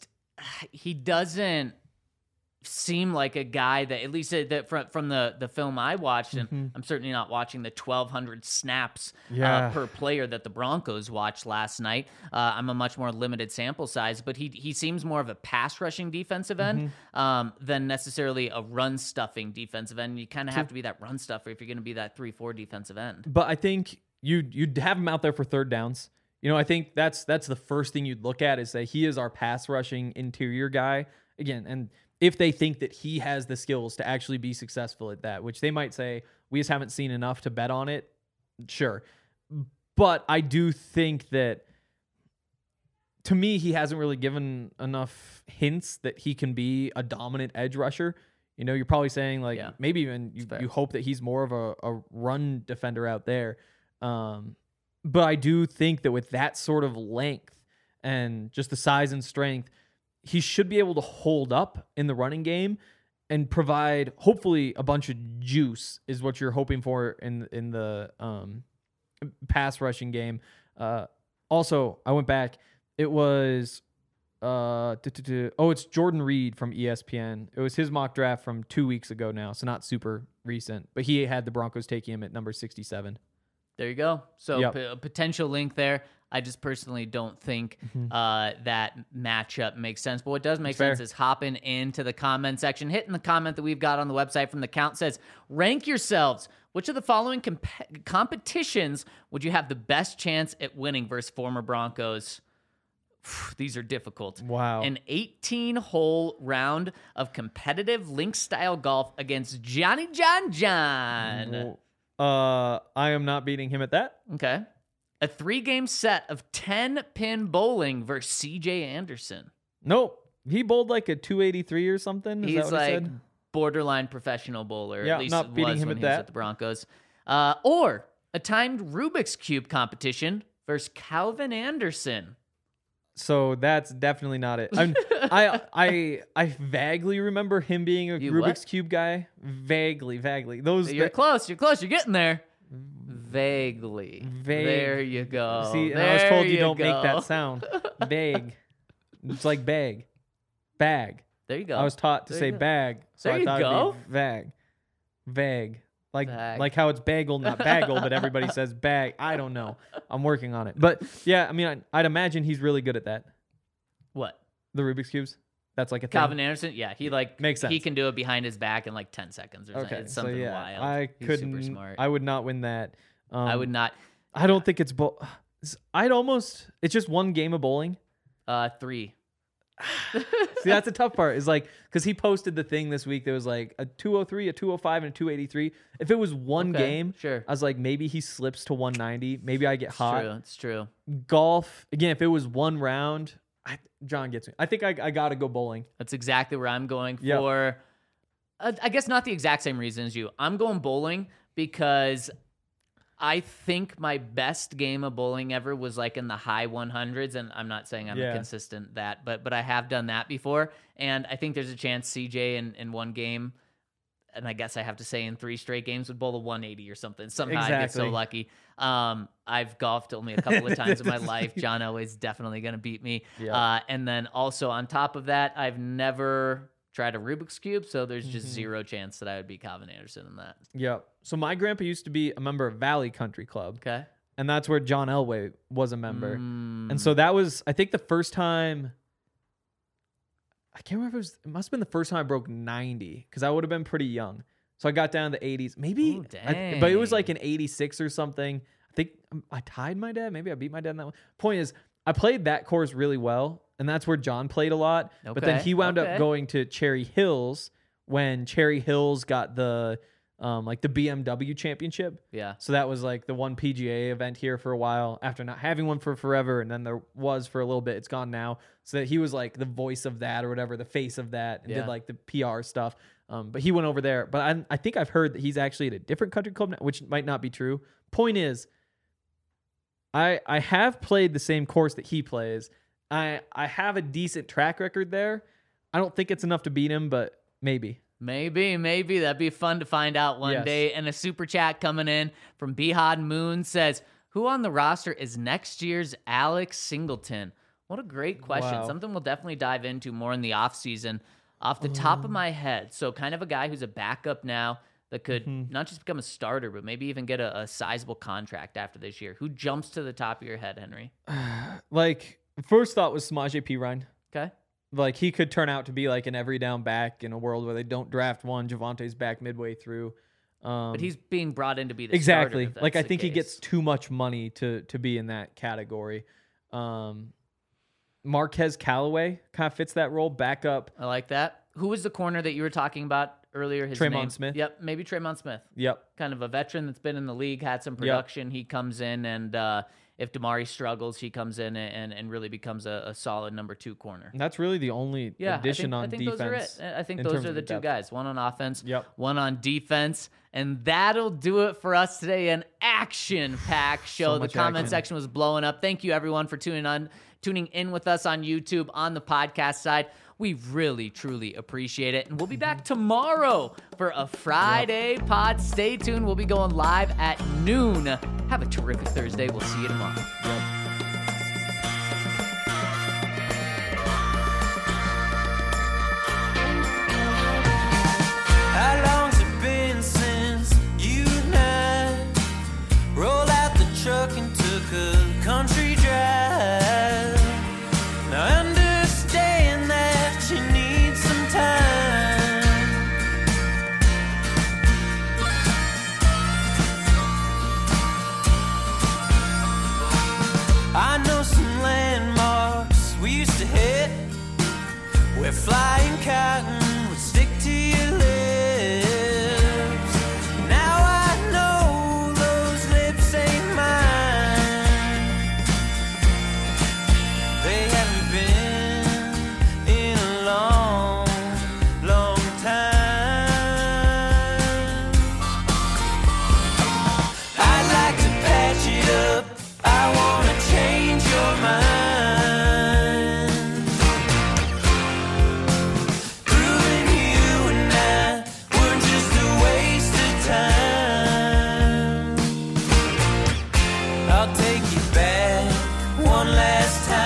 doesn't seem like a guy that, at least that from the film I watched, and I'm certainly not watching the 1,200 snaps per player that the Broncos watched last night. I'm a much more limited sample size, but he seems more of a pass rushing defensive end than necessarily a run stuffing defensive end. You kind of have to be that run stuffer if you're going to be that 3-4 defensive end. But I think you'd have him out there for third downs. You know, I think that's the first thing you'd look at is say he is our pass rushing interior guy again. And if they think that he has the skills to actually be successful at that, which they might say we just haven't seen enough to bet on it. Sure. But I do think that to me, he hasn't really given enough hints that he can be a dominant edge rusher. You know, you're probably saying like maybe even you hope that he's more of a run defender out there. But I do think that with that sort of length and just the size and strength, he should be able to hold up in the running game and provide hopefully a bunch of juice is what you're hoping for in the pass rushing game. Also, I went back. It was it's Jordan Reed from ESPN. It was his mock draft from 2 weeks ago now, so not super recent. But he had the Broncos taking him at number 67. There you go. So a potential link there. I just personally don't think that matchup makes sense. But what does make sense is hopping into the comment section, hitting the comment that we've got on the website from The Count says, rank yourselves. Which of the following competitions would you have the best chance at winning versus former Broncos? These are difficult. Wow. An 18-hole round of competitive link-style golf against Johnny John. I am not beating him at that. Okay. A 3-game set of 10-pin bowling versus CJ Anderson. Nope. He bowled like a 283 or something. He's like borderline professional bowler. Yeah, at least not beating him when at he was that. at the Broncos. Or a timed Rubik's Cube competition versus Calvin Anderson. So that's definitely not it. I vaguely remember him being a Rubik's Cube guy. Vaguely. You're close. You're getting there. Vaguely. There you go. See, and I was told you don't make that sound. Vague. It's like bag. Bag. There you go. I was taught to say bag, so I thought it'd be vague. Vague. Like how it's bagel, not bagel, but everybody says bag. I don't know. I'm working on it. But yeah, I mean, I'd imagine he's really good at that. What? The Rubik's Cubes? That's like a thing. Calvin Anderson? Yeah, he makes sense. He can do it behind his back in like 10 seconds or something. It's something wild. He's super smart. I would not win that. I would not. I don't think it's it's just one game of bowling. 3. See, that's the tough part. Is like because he posted the thing this week. There was like a 203, a 205, and a 283. If it was one game, sure. I was like, maybe he slips to 190. Maybe I get hot. It's true. Golf again. If it was one round, John gets me. I think I gotta go bowling. That's exactly where I'm going for. I guess not the exact same reason as you. I'm going bowling because I think my best game of bowling ever was like in the high 100s, and I'm not saying I'm consistent that, but I have done that before, and I think there's a chance CJ in one game, and I guess I have to say in 3 straight games would bowl a 180 or something. Somehow I get so lucky. I've golfed only a couple of times in my life. John Elway's definitely going to beat me. Yep. And then also on top of that, I've never tried a Rubik's Cube, so there's just zero chance that I would beat Calvin Anderson in that. Yep. So my grandpa used to be a member of Valley Country Club. Okay. And that's where John Elway was a member. And so that was, I think the first time, I can't remember if it must have been the first time I broke 90 because I would have been pretty young. So I got down to the 80s. Maybe, but it was like an 86 or something. I think I tied my dad. Maybe I beat my dad in that one. Point is, I played that course really well. And that's where John played a lot. Okay. But then he wound up going to Cherry Hills when Cherry Hills got the like the BMW championship. Yeah. So that was like the one PGA event here for a while after not having one for forever. And then there was for a little bit. It's gone now. So that he was like the voice of that or whatever, the face of that, and did like the PR stuff. But he went over there. But I think I've heard that he's actually at a different country club now, which might not be true. Point is, I have played the same course that he plays. I have a decent track record there. I don't think it's enough to beat him, but maybe. Maybe. That'd be fun to find out one day. And a super chat coming in from Behad Moon says, who on the roster is next year's Alex Singleton? What a great question. Wow. Something we'll definitely dive into more in the offseason. Off the top of my head, so kind of a guy who's a backup now that could not just become a starter, but maybe even get a sizable contract after this year. Who jumps to the top of your head, Henry? Like... First thought was Samaje Perine. Okay. Like, he could turn out to be like an every down back in a world where they don't draft one. Javante's back midway through. But he's being brought in to be the exactly. starter. Like, I think he gets too much money to be in that category. Marquez Callaway kind of fits that role. Backup. I like that. Who was the corner that you were talking about earlier? Tremont Smith. Yep, maybe Tremont Smith. Yep. Kind of a veteran that's been in the league, had some production. Yep. He comes in and... if Damari struggles, he comes in and really becomes a solid number 2 corner. And that's really the only addition on defense. Those are it. I think those are the two guys. One on offense, one on defense. And that'll do it for us today. An action-packed show. The comment section was blowing up. Thank you, everyone, for tuning in with us on YouTube, on the podcast side. We really, truly appreciate it. And we'll be back tomorrow for a Friday pod. Stay tuned. We'll be going live at noon. Have a terrific Thursday. We'll see you tomorrow. How long's it been since you and I rolled out the truck and took a country drive? Now I understand that you need some time. I know some landmarks we used to hit where flying cotton would stick to your lips. Now I know those lips ain't mine. They haven't been in a long, long time. I'd like to patch it up. I wanna change your mind. Proving you and I were just a waste of time. I'll take you back one last time.